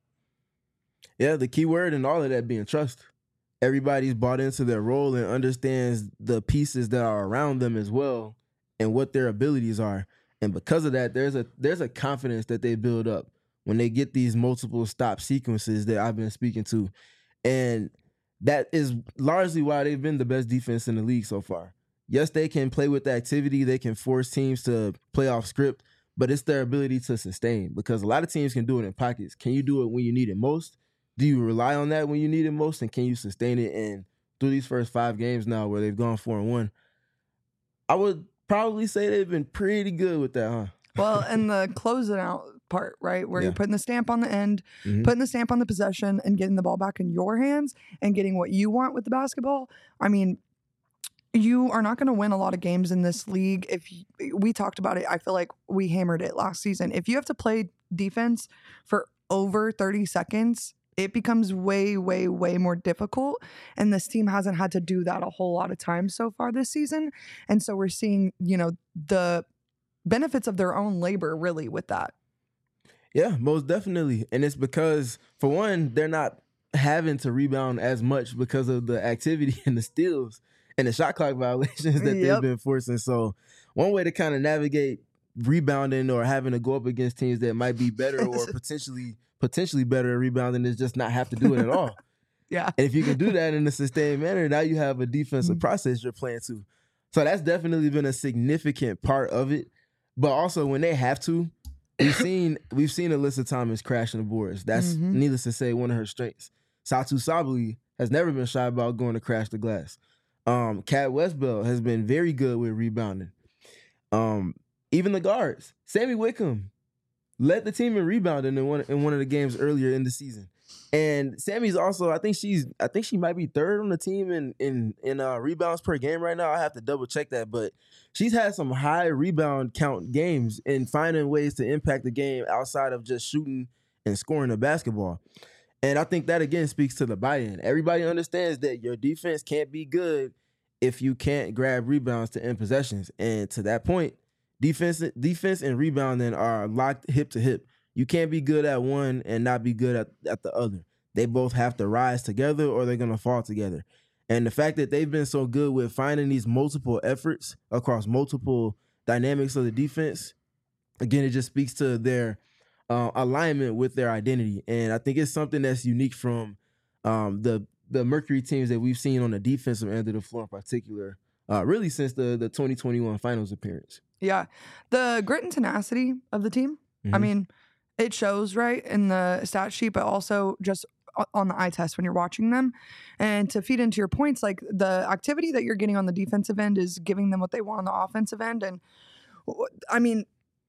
Yeah, the key word in all of that being trust. Everybody's bought into their role and understands the pieces that are around them as well and what their abilities are. And because of that, there's a confidence that they build up when they get these multiple stop sequences that I've been speaking to. And that is largely why they've been the best defense in the league so far. Yes, they can play with the activity. They can force teams to play off script, but it's their ability to sustain, because a lot of teams can do it in pockets. Can you do it when you need it most? Do you rely on that when you need it most? And can you sustain it? And through these first 5 games now where they've gone 4-1, I would probably say they've been pretty good with that, huh? Well, and the closing out part, right, where you're putting the stamp on the end, putting the stamp on the possession, and getting the ball back in your hands and getting what you want with the basketball. I mean, you are not going to win a lot of games in this league. We talked about it, I feel like we hammered it last season. If you have to play defense for over 30 seconds, it becomes way, way, way more difficult. And this team hasn't had to do that a whole lot of times so far this season. And so we're seeing, the benefits of their own labor really with that. Yeah, most definitely. And it's because, for one, they're not having to rebound as much because of the activity and the steals and the shot clock violations that they've been forcing. So one way to kind of navigate rebounding or having to go up against teams that might be better or potentially better at rebounding is just not have to do it at all. Yeah. And if you can do that in a sustained manner, now you have a defensive process you're playing to. So that's definitely been a significant part of it. But also when they have to, we've seen Alyssa Thomas crashing the boards. That's needless to say one of her strengths. Satu Sabally has never been shy about going to crash the glass. Cat Westbeld has been very good with rebounding. Even the guards, Sammy Wickham led the team in rebounding in one of the games earlier in the season. And Sammy's also, I think she might be 3rd on the team in rebounds per game right now. I have to double check that, but she's had some high rebound count games and finding ways to impact the game outside of just shooting and scoring the basketball. And I think that again speaks to the buy-in. Everybody understands that your defense can't be good if you can't grab rebounds to end possessions. And to that point, defense and rebounding are locked hip to hip. You can't be good at one and not be good at the other. They both have to rise together or they're going to fall together. And the fact that they've been so good with finding these multiple efforts across multiple dynamics of the defense, again, it just speaks to their alignment with their identity. And I think it's something that's unique from the Mercury teams that we've seen on the defensive end of the floor in particular, really since the 2021 finals appearance. Yeah. The grit and tenacity of the team. I mean, it shows right in the stat sheet, but also just on the eye test when you're watching them. And to feed into your points, like the activity that you're getting on the defensive end is giving them what they want on the offensive end. And I mean,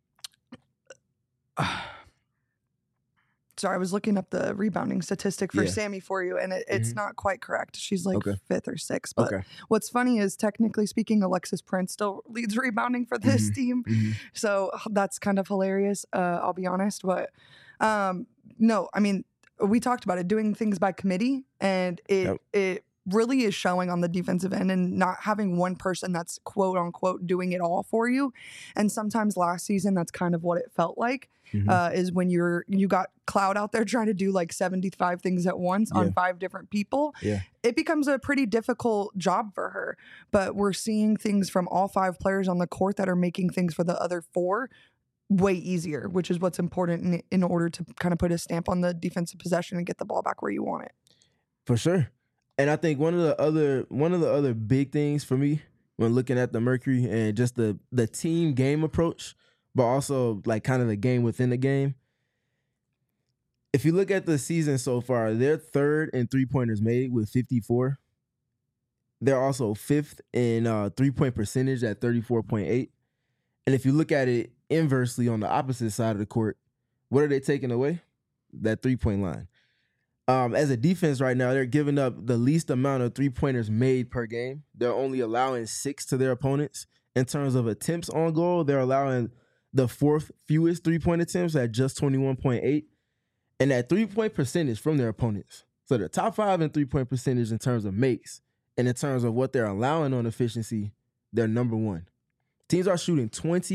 sorry, I was looking up the rebounding statistic for Sammy for you, and it's not quite correct. She's like 5th or 6th. But what's funny is, technically speaking, Alexis Prince still leads rebounding for this team. So that's kind of hilarious, I'll be honest. But no, I mean, we talked about it, doing things by committee, and it really is showing on the defensive end, and not having one person that's quote unquote doing it all for you. And sometimes last season, that's kind of what it felt like, is when you got Cloud out there trying to do like 75 things at once on 5 different people. It becomes a pretty difficult job for her. But we're seeing things from all 5 players on the court that are making things for the other 4 way easier, which is what's important in order to kind of put a stamp on the defensive possession and get the ball back where you want it. For sure. And I think one of the other big things for me when looking at the Mercury and just the team game approach, but also like kind of the game within the game. If you look at the season so far, they're 3rd in 3-pointers made with 54. They're also 5th in 3-point percentage at 34.8. And if you look at it inversely on the opposite side of the court, what are they taking away? That 3-point line. As a defense right now, they're giving up the least amount of 3-pointers made per game. They're only allowing 6 to their opponents. In terms of attempts on goal, they're allowing the 4th fewest 3-point attempts at just 21.8. And that 3-point percentage from their opponents. So they're top 5 in 3-point percentage in terms of makes. And in terms of what they're allowing on efficiency, they're number 1. Teams are shooting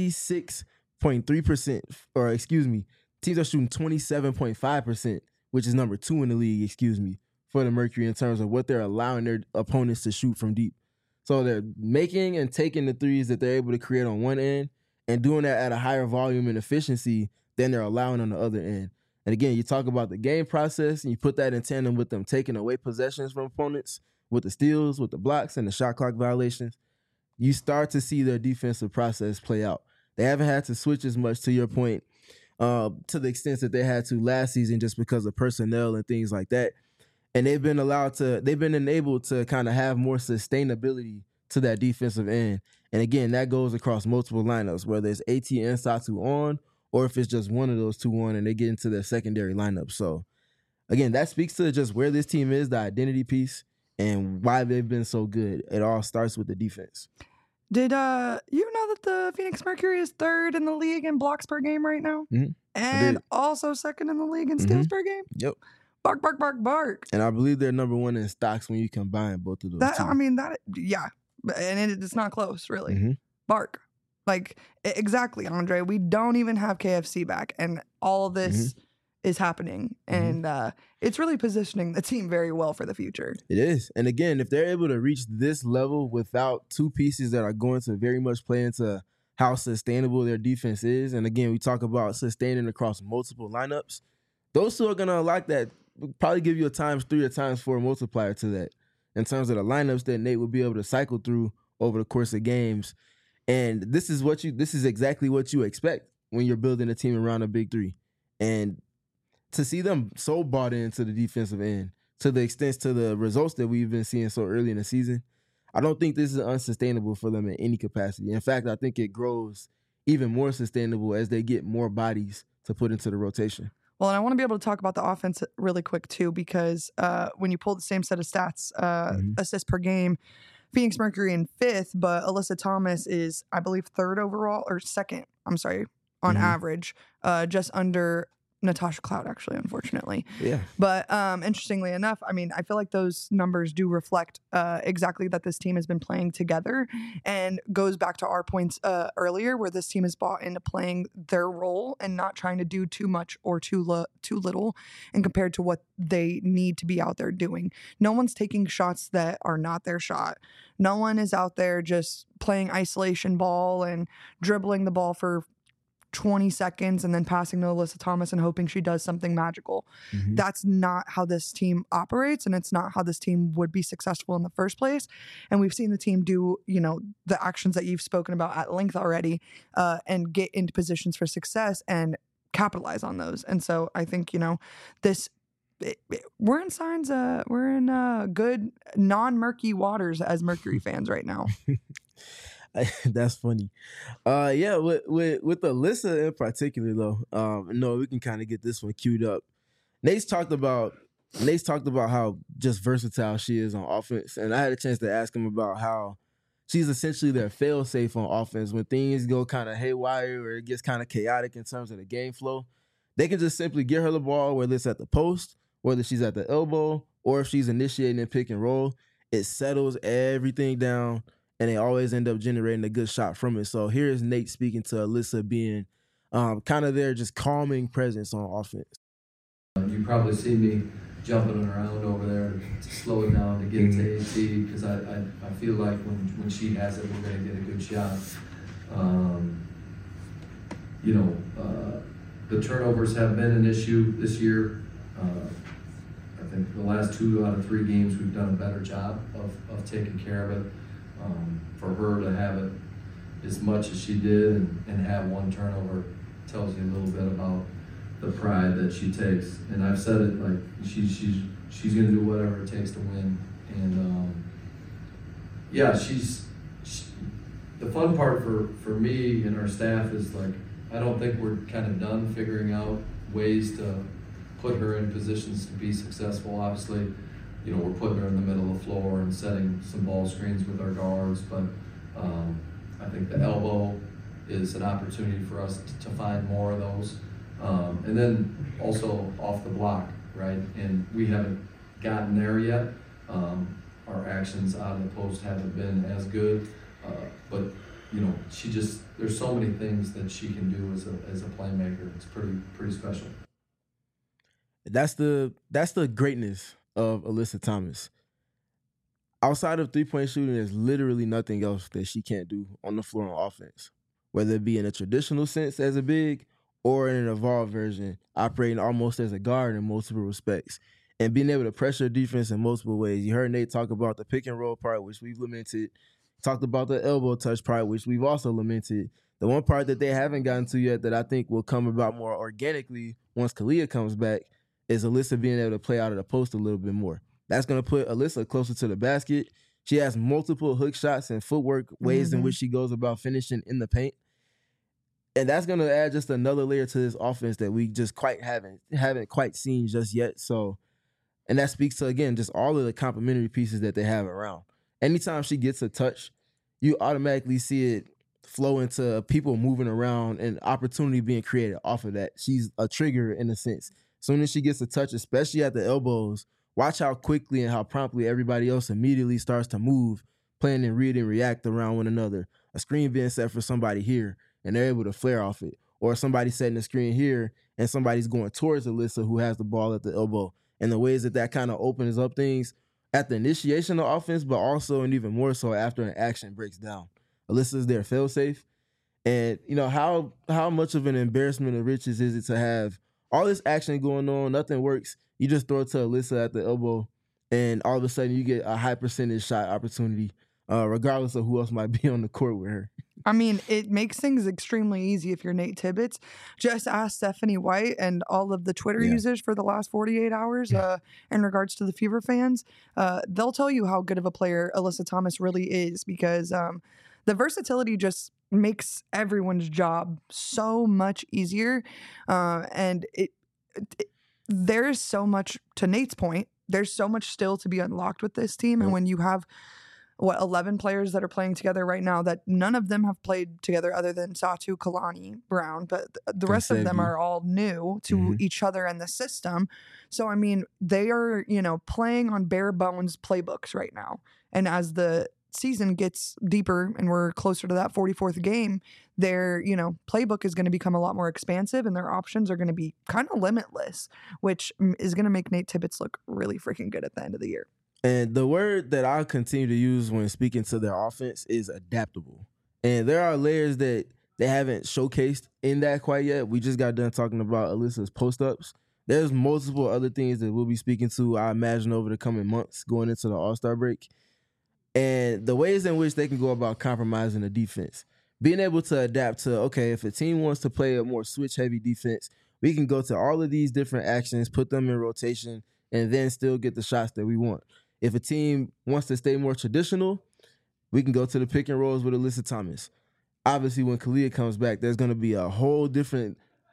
26.3%, or excuse me, teams are shooting 27.5%, which is number 2 in the league, for the Mercury in terms of what they're allowing their opponents to shoot from deep. So they're making and taking the threes that they're able to create on one end and doing that at a higher volume and efficiency than they're allowing on the other end. And again, you talk about the game process and you put that in tandem with them taking away possessions from opponents with the steals, with the blocks, and the shot clock violations. You start to see their defensive process play out. They haven't had to switch as much, to your point, to the extent that they had to last season just because of personnel and things like that. And they've been enabled to kind of have more sustainability to that defensive end. And again, that goes across multiple lineups, whether it's AT and Satu on, or if it's just one of those 2 on and they get into their secondary lineup. So again, that speaks to just where this team is, the identity piece, and why they've been so good. It all starts with the defense. Did you know that the Phoenix Mercury is 3rd in the league in blocks per game right now? And also 2nd in the league in steals per game? Yep. Bark, bark, bark, bark. And I believe they're number 1 in stocks when you combine both of those two. I mean, yeah. And it's not close, really. Bark. Like, exactly, Andre. We don't even have KFC back, and all of this is happening. And it's really positioning the team very well for the future. It is. And again, if they're able to reach this level without 2 pieces that are going to very much play into how sustainable their defense is, and again, we talk about sustaining across multiple lineups, those 2 are going to unlock that, probably give you a ×3 or ×4 multiplier to that in terms of the lineups that Nate will be able to cycle through over the course of games. And this is exactly what you expect when you're building a team around a big 3. And to see them so bought into the defensive end, to the extent to the results that we've been seeing so early in the season, I don't think this is unsustainable for them in any capacity. In fact, I think it grows even more sustainable as they get more bodies to put into the rotation. Well, and I want to be able to talk about the offense really quick, too, because when you pull the same set of stats, assists per game, Phoenix Mercury in 5th, but Alyssa Thomas is, I believe, 3rd overall, or 2nd, on average, just under Natasha Cloud, actually, unfortunately. Yeah. But interestingly enough, I mean, I feel like those numbers do reflect exactly that this team has been playing together, and goes back to our points earlier, where this team is bought into playing their role and not trying to do too much or too little, and compared to what they need to be out there doing. No one's taking shots that are not their shot. No one is out there just playing isolation ball and dribbling the ball for 20 seconds and then passing to Alyssa Thomas and hoping she does something magical. That's not how this team operates, and it's not how this team would be successful in the first place. And we've seen the team do, the actions that you've spoken about at length already, and get into positions for success and capitalize on those. And so I think, this we're in signs we're in good non-murky waters as Mercury fans right now. That's funny. Yeah, with Alyssa in particular though, no, we can kind of get this one queued up. Nate's talked about how just versatile she is on offense, and I had a chance to ask him about how she's essentially their fail-safe on offense when things go kind of haywire or it gets kind of chaotic in terms of the game flow. They can just simply get her the ball, whether it's at the post, whether she's at the elbow, or if she's initiating a pick and roll. It settles everything down, and they always end up generating a good shot from it. So here's Nate speaking to Alyssa being kind of their just calming presence on offense. You probably see me jumping around over there to slow it down to get it to AT, because I feel like when she has it, we're going to get a good shot. The turnovers have been an issue this year. I think the last 2 out of 3 games we've done a better job of taking care of it. For her to have it as much as she did and have 1 turnover tells you a little bit about the pride that she takes. And I've said it, like she's going to do whatever it takes to win. And the fun part for me and our staff is, like, I don't think we're kind of done figuring out ways to put her in positions to be successful. Obviously, we're putting her in the middle of the floor and setting some ball screens with our guards, but I think the elbow is an opportunity for us to find more of those. And then also off the block, right? And we haven't gotten there yet. Our actions out of the post haven't been as good, but there's so many things that she can do as a playmaker. It's pretty special. That's the greatness of Alyssa Thomas. Outside of 3-point shooting, there's literally nothing else that she can't do on the floor on offense, whether it be in a traditional sense as a big or in an evolved version, operating almost as a guard in multiple respects and being able to pressure defense in multiple ways. You heard Nate talk about the pick and roll part, which we've lamented. Talked about the elbow touch part, which we've also lamented. The one part that they haven't gotten to yet that I think will come about more organically once Kalia comes back is Alyssa being able to play out of the post a little bit more. That's going to put Alyssa closer to the basket. She has multiple hook shots and footwork ways in which she goes about finishing in the paint. And that's going to add just another layer to this offense that we just haven't quite seen just yet. So, and that speaks to, again, just all of the complementary pieces that they have around. Anytime she gets a touch, you automatically see it flow into people moving around and opportunity being created off of that. She's a trigger in a sense. As soon as she gets a touch, especially at the elbows, watch how quickly and how promptly everybody else immediately starts to move, plan and read and react around one another. A screen being set for somebody here, and they're able to flare off it. Or somebody setting a screen here, and somebody's going towards Alyssa who has the ball at the elbow. And the ways that kind of opens up things at the initiation of offense, but also and even more so after an action breaks down. Alyssa's their fail-safe. And, how much of an embarrassment of riches is it to have all this action going on, nothing works, you just throw it to Alyssa at the elbow, and all of a sudden you get a high percentage shot opportunity, regardless of who else might be on the court with her. I mean, it makes things extremely easy if you're Nate Tibbetts. Just ask Stephanie White and all of the Twitter users for the last 48 hours in regards to the Fever fans. They'll tell you how good of a player Alyssa Thomas really is, because the versatility just makes everyone's job so much easier. And there's so much, to Nate's point, there's so much still to be unlocked with this team. And when you have 11 players that are playing together right now, that none of them have played together other than Satu, Kalani, Brown, but the rest of them are all new to each other in the system. So, I mean, they are, playing on bare bones playbooks right now. And as the season gets deeper and we're closer to that 44th game, their, playbook is going to become a lot more expansive and their options are going to be kind of limitless, which is going to make Nate Tibbetts look really freaking good at the end of the year. And the word that I'll continue to use when speaking to their offense is adaptable. And there are layers that they haven't showcased in that quite yet. We just got done talking about Alyssa's post-ups. There's multiple other things that we'll be speaking to, I imagine, over the coming months going into the All-Star break. And the ways in which they can go about compromising the defense. being able to adapt to, okay, if a team wants to play a more switch-heavy defense, we can go to all of these different actions, put them in rotation, and then still get the shots that we want. If a team wants to stay more traditional, we can go to the pick and rolls with Alyssa Thomas. Obviously, when Kalia comes back, there's going to be a whole different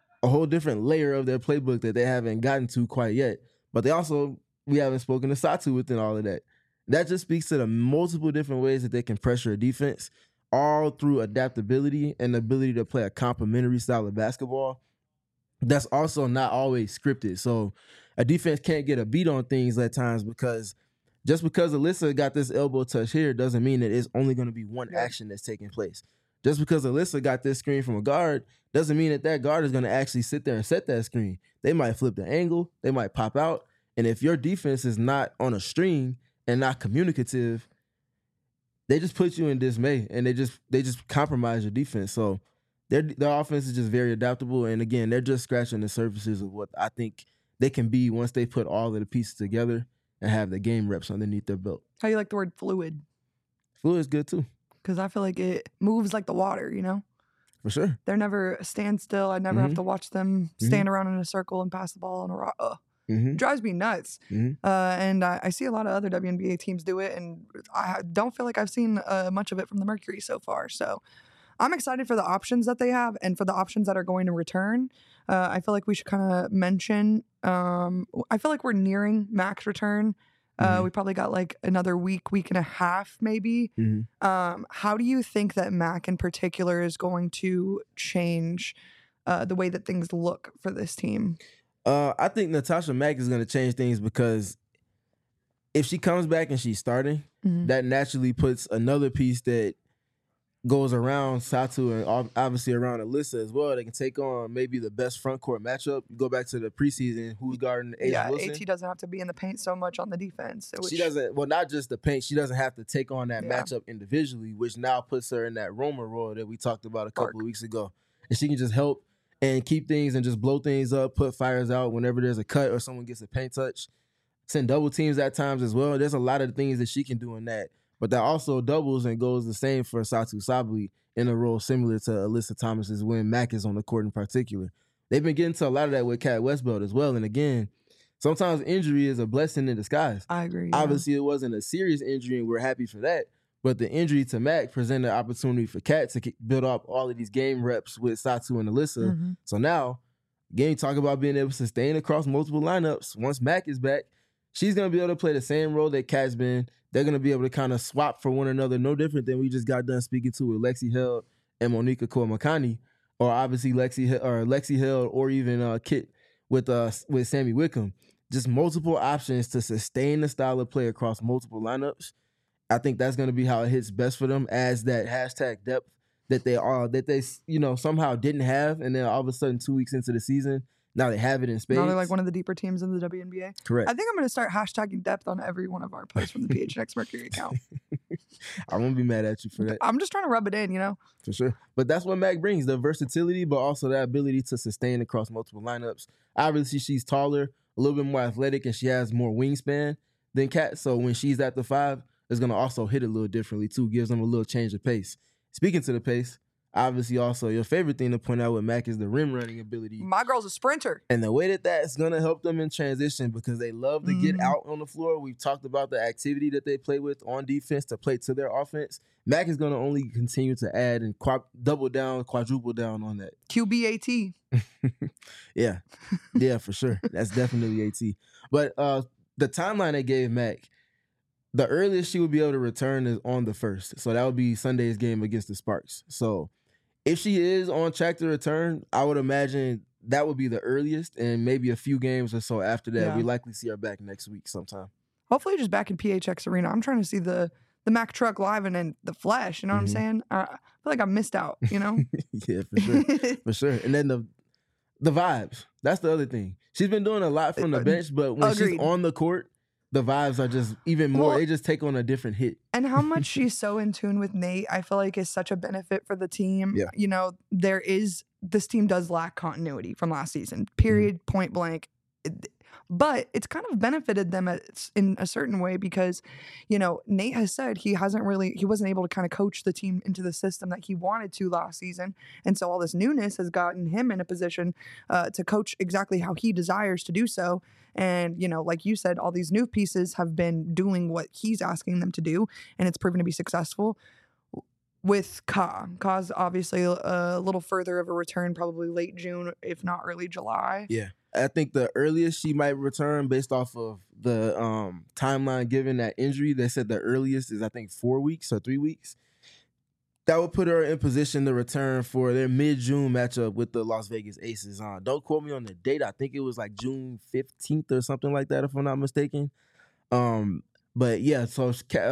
layer of their playbook that they haven't gotten to quite yet. But we haven't spoken to Satu within all of that. That just speaks to the multiple different ways that they can pressure a defense, all through adaptability and the ability to play a complementary style of basketball that's also not always scripted. So a defense can't get a beat on things at times because just because Alyssa got this elbow touch here doesn't mean that it's only going to be one action that's taking place. Just because Alyssa got this screen from a guard doesn't mean that guard is going to actually sit there and set that screen. They might flip the angle. They might pop out. And if your defense is not on a string and not communicative, they just put you in dismay and they just compromise your defense. So their offense is just very adaptable. And again, they're just scratching the surfaces of what I think they can be once they put all of the pieces together and have the game reps underneath their belt. How you like the word fluid? Fluid is good too. Because I feel like it moves like the water, you know? For sure. They're never a standstill. I never have to watch them stand around in a circle and pass the ball on a rock. It drives me nuts. And I see a lot of other WNBA teams do it, and I don't feel like I've seen much of it from the Mercury so far. So I'm excited for the options that they have and for the options that are going to return. I feel like we should kind of mention, I feel like we're nearing Mac's return. We probably got like another week and a half maybe. How do you think that Mac in particular is going to change the way that things look for this team? I think Natasha Mack is going to change things because if she comes back and she's starting, that naturally puts another piece that goes around Satu and obviously around Alyssa as well. They can take on maybe the best front court matchup. You go back to the preseason, who's guarding A'ja Wilson? AT doesn't have to be in the paint so much on the defense. She doesn't, well, not just the paint. She doesn't have to take on that matchup individually, which now puts her in that Roma role that we talked about a couple of weeks ago. And she can just help and keep things and just blow things up, put fires out whenever there's a cut or someone gets a paint touch. Send double teams at times as well. There's a lot of things that she can do in that. But that also doubles and goes the same for Satu Sabally in a role similar to Alyssa Thomas's when Mac is on the court in particular. They've been getting to a lot of that with Kat Westbelt as well. And again, sometimes injury is a blessing in disguise. I agree. Obviously, it wasn't a serious injury, and we're happy for that. But the injury to Mac presented an opportunity for Kat to build up all of these game reps with Satu and Alyssa. So now, again, you talk about being able to sustain across multiple lineups. Once Mac is back, she's going to be able to play the same role that Kat's been. They're going to be able to kind of swap for one another, no different than we just got done speaking to with Lexi Held and Monica Koemakani, or obviously Lexi Held, or even Kit with Sammy Wickham. Just multiple options to sustain the style of play across multiple lineups. I think that's going to be how it hits best for them as that hashtag depth that they somehow didn't have, and then all of a sudden 2 weeks into the season, now they have it in spades. Now they're like one of the deeper teams in the WNBA. Correct. I think I'm going to start hashtagging depth on every one of our posts from the PHNX Mercury account. I won't be mad at you for that. I'm just trying to rub it in, you know? For sure. But that's what Mac brings, the versatility, but also the ability to sustain across multiple lineups. Obviously, she's taller, a little bit more athletic, and she has more wingspan than Kat. So when she's at the 5, it's going to also hit a little differently, too. Gives them a little change of pace. Speaking to the pace, obviously also your favorite thing to point out with Mac is the rim running ability. My girl's a sprinter. And the way that's going to help them in transition because they love to get out on the floor. We've talked about the activity that they play with on defense to play to their offense. Mac is going to only continue to add and double down, quadruple down on that. QBAT. Yeah, for sure. That's definitely AT. But the timeline they gave Mac, the earliest she would be able to return is on the 1st. So that would be Sunday's game against the Sparks. So if she is on track to return, I would imagine that would be the earliest, and maybe a few games or so after that, we likely see her back next week sometime. Hopefully just back in PHX Arena. I'm trying to see the Mac truck live and in the flesh, you know what I'm saying? I feel like I missed out, you know? Yeah, for sure. For sure. And then the vibes. That's the other thing. She's been doing a lot from the bench, but when she's on the court, the vibes are just even more, they just take on a different hit. And how much she's so in tune with Nate, I feel like is such a benefit for the team. Yeah. You know, this team does lack continuity from last season, period, point blank. But it's kind of benefited them in a certain way because, Nate has said he wasn't able to kind of coach the team into the system that he wanted to last season. And so all this newness has gotten him in a position to coach exactly how he desires to do so. And, like you said, all these new pieces have been doing what he's asking them to do, and it's proven to be successful. With Ka's obviously a little further of a return, probably late June, if not early July. Yeah. I think the earliest she might return based off of the timeline given that injury, they said the earliest is, I think, 4 weeks or 3 weeks. That would put her in position to return for their mid-June matchup with the Las Vegas Aces. Don't quote me on the date. I think it was like June 15th or something like that, if I'm not mistaken. But yeah, so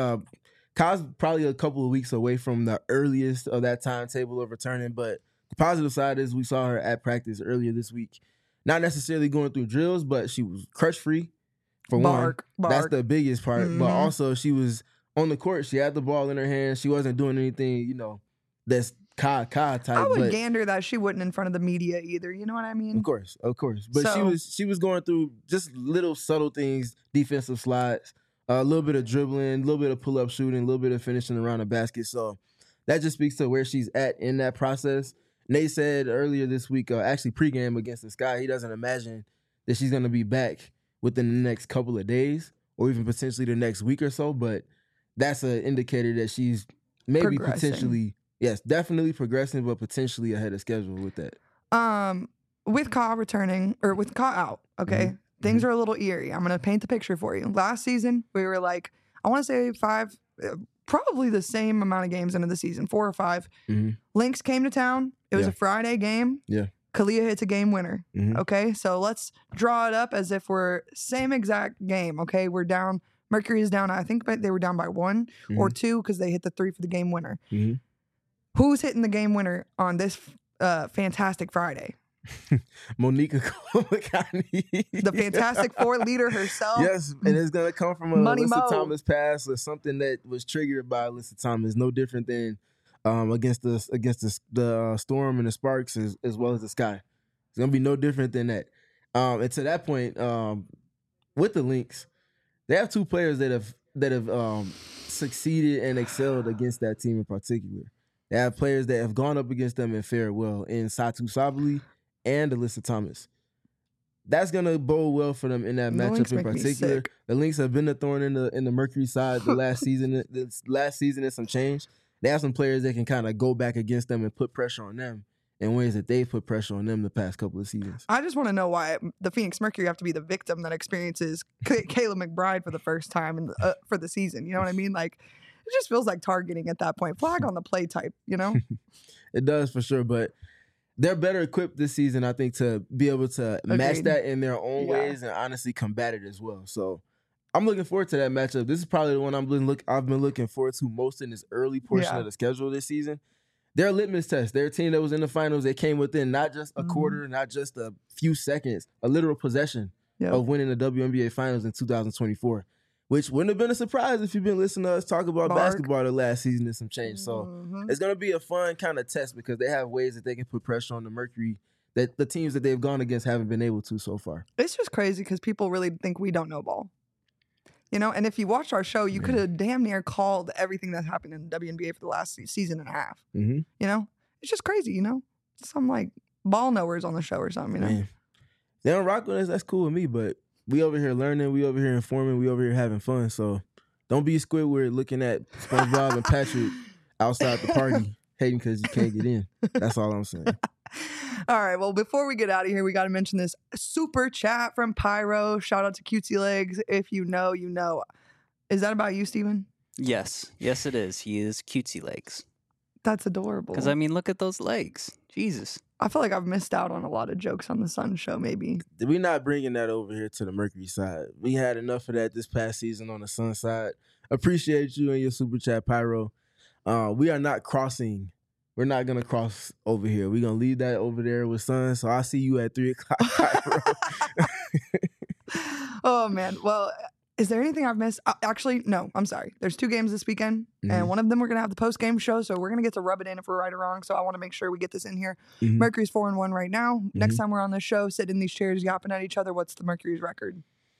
Ka's probably a couple of weeks away from the earliest of that timetable of returning. But the positive side is we saw her at practice earlier this week. Not necessarily going through drills, but she was crush-free for one. That's the biggest part. Mm-hmm. But also she was on the court. She had the ball in her hand. She wasn't doing anything, that's Ka type. I would gander that she wouldn't in front of the media either. You know what I mean? Of course. But she was going through just little subtle things, defensive slides, a little bit of dribbling, a little bit of pull-up shooting, a little bit of finishing around the basket. So that just speaks to where she's at in that process. Nate said earlier this week, actually pregame against the Sky, he doesn't imagine that she's going to be back within the next couple of days or even potentially the next week or so. But that's an indicator that she's maybe potentially, yes, definitely progressing, but potentially ahead of schedule with that. With Ka returning, or with Ka out, okay, things are a little eerie. I'm going to paint the picture for you. Last season, we were like, I want to say 5, probably the same amount of games into the season, 4 or 5. Lynx came to town. It was a Friday game. Yeah. Kalia hits a game winner. Okay, so let's draw it up as if we're same exact game. Okay, we're down. Mercury is down. I think they were down by 1 or 2 because they hit the 3 for the game winner. Who's hitting the game winner on this fantastic Friday? Monica Kolakani. The Fantastic Four leader herself. Yes, and it's going to come from a Alyssa Thomas pass or something that was triggered by Alyssa Thomas. No different than against the Storm and the Sparks as well as the Sky. It's going to be no different than that. And to that point, with the Lynx, they have 2 players that have succeeded and excelled against that team in particular. They have players that have gone up against them and fared well in Satu Sabali and Alyssa Thomas. That's gonna bode well for them in that matchup in particular. The Lynx have been a thorn in the Mercury side the last season. This last season is some change. They have some players that can kind of go back against them and put pressure on them in ways that they've put pressure on them the past couple of seasons. I just want to know why the Phoenix Mercury have to be the victim that experiences Kayla McBride for the first time for the season. You know what I mean? Like, it just feels like targeting at that point. Flag on the play type, It does for sure, but they're better equipped this season, I think, to be able to match that in their own ways and honestly combat it as well. So I'm looking forward to that matchup. This is probably the one I've been looking forward to most in this early portion of the schedule this season. They're a litmus test. They're a team that was in the finals. They came within not just a quarter, not just a few seconds, a literal possession of winning the WNBA Finals in 2024. Which wouldn't have been a surprise if you've been listening to us talk about basketball the last season and some change. So it's going to be a fun kind of test because they have ways that they can put pressure on the Mercury that the teams that they've gone against haven't been able to so far. It's just crazy because people really think we don't know ball. And if you watched our show, you could have damn near called everything that happened in the WNBA for the last season and a half. It's just crazy, Some like ball knowers on the show or something, Man. They don't rock with us, that's cool with me, but we over here learning, we over here informing, we over here having fun. So don't be Squidward looking at SpongeBob and Patrick outside the party hating because you can't get in. That's all I'm saying. All right. Well, before we get out of here, we got to mention this super chat from Pyro. Shout out to Cutesy Legs. If you know, you know. Is that about you, Steven? Yes. Yes, it is. He is Cutesy Legs. That's adorable. Because, look at those legs. Jesus. I feel like I've missed out on a lot of jokes on the Sun show, maybe. We're not bringing that over here to the Mercury side. We had enough of that this past season on the Sun side. Appreciate you and your super chat, Pyro. We are not crossing. We're not going to cross over here. We're going to leave that over there with Sun. So I'll see you at 3 o'clock, Pyro. Oh, man. Well, Is there anything I've missed? Actually, no, I'm sorry. There's 2 games this weekend, Mhm. and one of them we're going to have the post-game show, so we're going to get to rub it in if we're right or wrong, so I want to make sure we get this in here. Mhm. Mercury's 4-1 right now. Next Mhm. time we're on this show, sitting in these chairs, yapping at each other, what's the Mercury's record?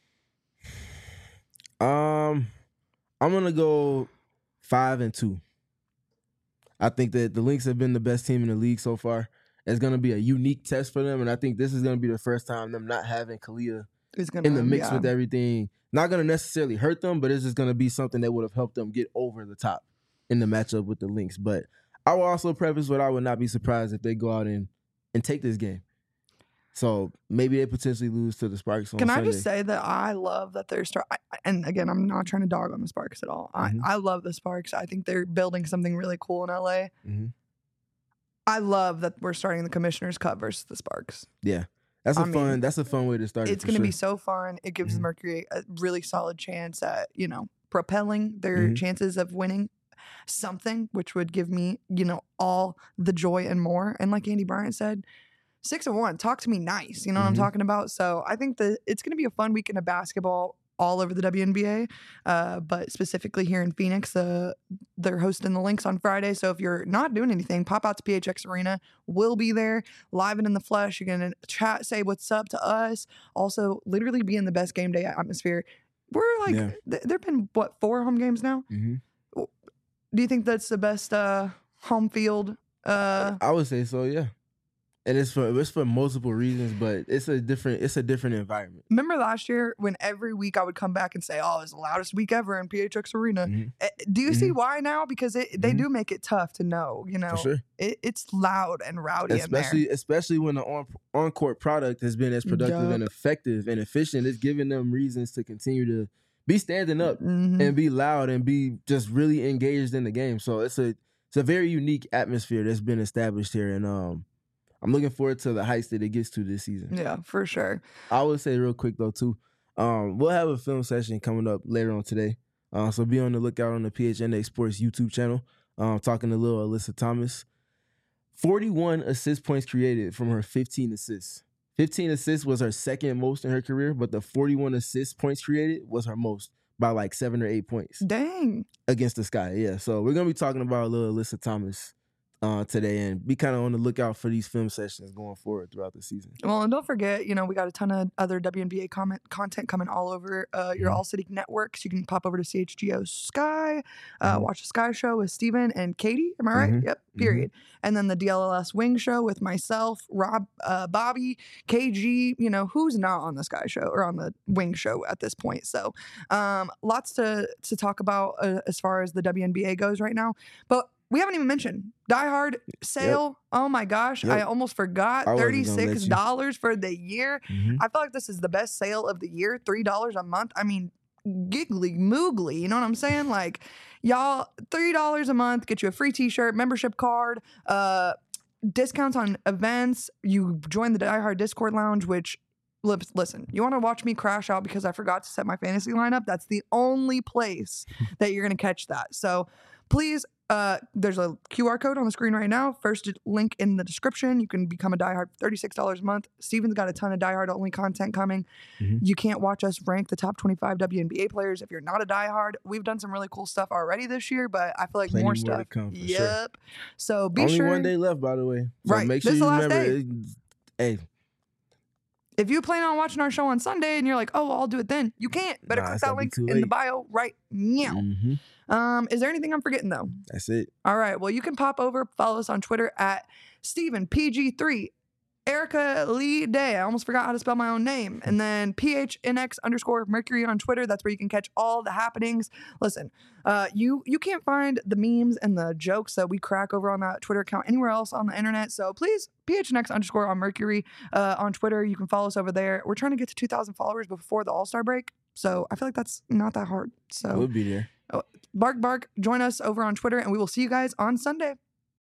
I'm gonna go 5-2. I think that the Lynx have been the best team in the league so far. It's gonna be a unique test for them, and I think this is gonna be the first time them not having Kalia Who's gonna, in the mix yeah. with everything. Not gonna necessarily hurt them, but it's just gonna be something that would have helped them get over the top in the matchup with the Lynx. But I will also preface what I would not be surprised if they go out and take this game. So maybe they potentially lose to the Sparks on Can Sunday. I just say that I love that they're and again, I'm not trying to dog on the Sparks at all. Mhm. I love the Sparks. I think they're building something really cool in LA. Mhm. I love that we're starting the Commissioner's Cup versus the Sparks. Yeah, that's I mean, that's a fun way to start. It's going going to be so fun. It gives Mhm. Mercury a really solid chance at, propelling their Mhm. chances of winning something, which would give me, all the joy and more. And like Andy Bryant said, 6-1, talk to me nice. You know what I'm Mhm. talking about? So I think that it's going to be a fun weekend of basketball all over the WNBA, but specifically here in Phoenix, they're hosting the Lynx on Friday. So if you're not doing anything, pop out to PHX Arena. We'll be there live and in the flesh. You're going to chat, say what's up to us. Also, literally be in the best game day atmosphere. We're like, Yeah. There've been, 4 home games now? Mhm. Do you think that's the best home field? I would say so, yeah. And it's for multiple reasons, but it's a different environment. Remember last year when every week I would come back and say, "Oh, it's the loudest week ever in PHX Arena." Mhm. Do you see why now? Because they Mhm. do make it tough to know. For sure. It's loud and rowdy in there. Especially when the on court product has been as productive and effective and efficient. It's giving them reasons to continue to be standing up Mhm. and be loud and be just really engaged in the game. So it's a very unique atmosphere that's been established here, and I'm looking forward to the heights that it gets to this season. Yeah, for sure. I would say real quick though too, we'll have a film session coming up later on today. So be on the lookout on the PHNX Sports YouTube channel. Talking to little Alyssa Thomas. 41 assist points created from her 15 assists. 15 assists was her second most in her career, but the 41 assist points created was her most by like 7 or 8 points Dang. against the Sky. Yeah, so we're gonna be talking about little Alyssa Thomas today, and be kind of on the lookout for these film sessions going forward throughout the season. Well, and don't forget, we got a ton of other WNBA content coming all over your All City networks. You can pop over to CHGO Sky, watch the Sky Show with Steven and Katie. Am I right? Mhm. Yep. Period. And then the DLLS Wing Show with myself, Rob, Bobby, KG. Who's not on the Sky Show or on the Wing Show at this point? So, lots to talk about as far as the WNBA goes right now. But we haven't even mentioned Die Hard sale. Oh my gosh, Yep. I almost forgot. I wasn't gonna let you. $36 for the year. Mhm. I feel like this is the best sale of the year. $3 a month. I mean, giggly moogly. You know what I'm saying? Like, y'all, $3 a month, get you a free t-shirt, membership card, discounts on events. You join the Die Hard Discord Lounge, which, listen, you want to watch me crash out because I forgot to set my fantasy lineup? That's the only place that you're going to catch that. So please, there's a QR code on the screen right now. First link in the description. You can become a Die Hard for $36 a month. Steven's got a ton of Die Hard only content coming. Mhm. You can't watch us rank the top 25 WNBA players if you're not a Die Hard. We've done some really cool stuff already this year, but I feel like Plenty more more to stuff. come, for sure. Yep. So be Only sure. one day left, by the way. So Right. make sure This you is the last remember. Hey, If you plan on watching our show on Sunday and you're like, oh, I'll do it then, you can't. Better Nah, click it's that gonna be link too in the late. bio right now. mhm. Is there anything I'm forgetting though? That's it. All right. Well, you can pop over, follow us on Twitter at StephenPG3, Erica Lee Day. I almost forgot how to spell my own name. And then PHNX_Mercury on Twitter. That's where you can catch all the happenings. Listen, you can't find the memes and the jokes that we crack over on that Twitter account anywhere else on the internet. So please, PHNX_ on Mercury on Twitter. You can follow us over there. We're trying to get to 2,000 followers before the All-Star break. So I feel like that's not that hard. So We'll be there. bark, join us over on Twitter, and we will see you guys on Sunday.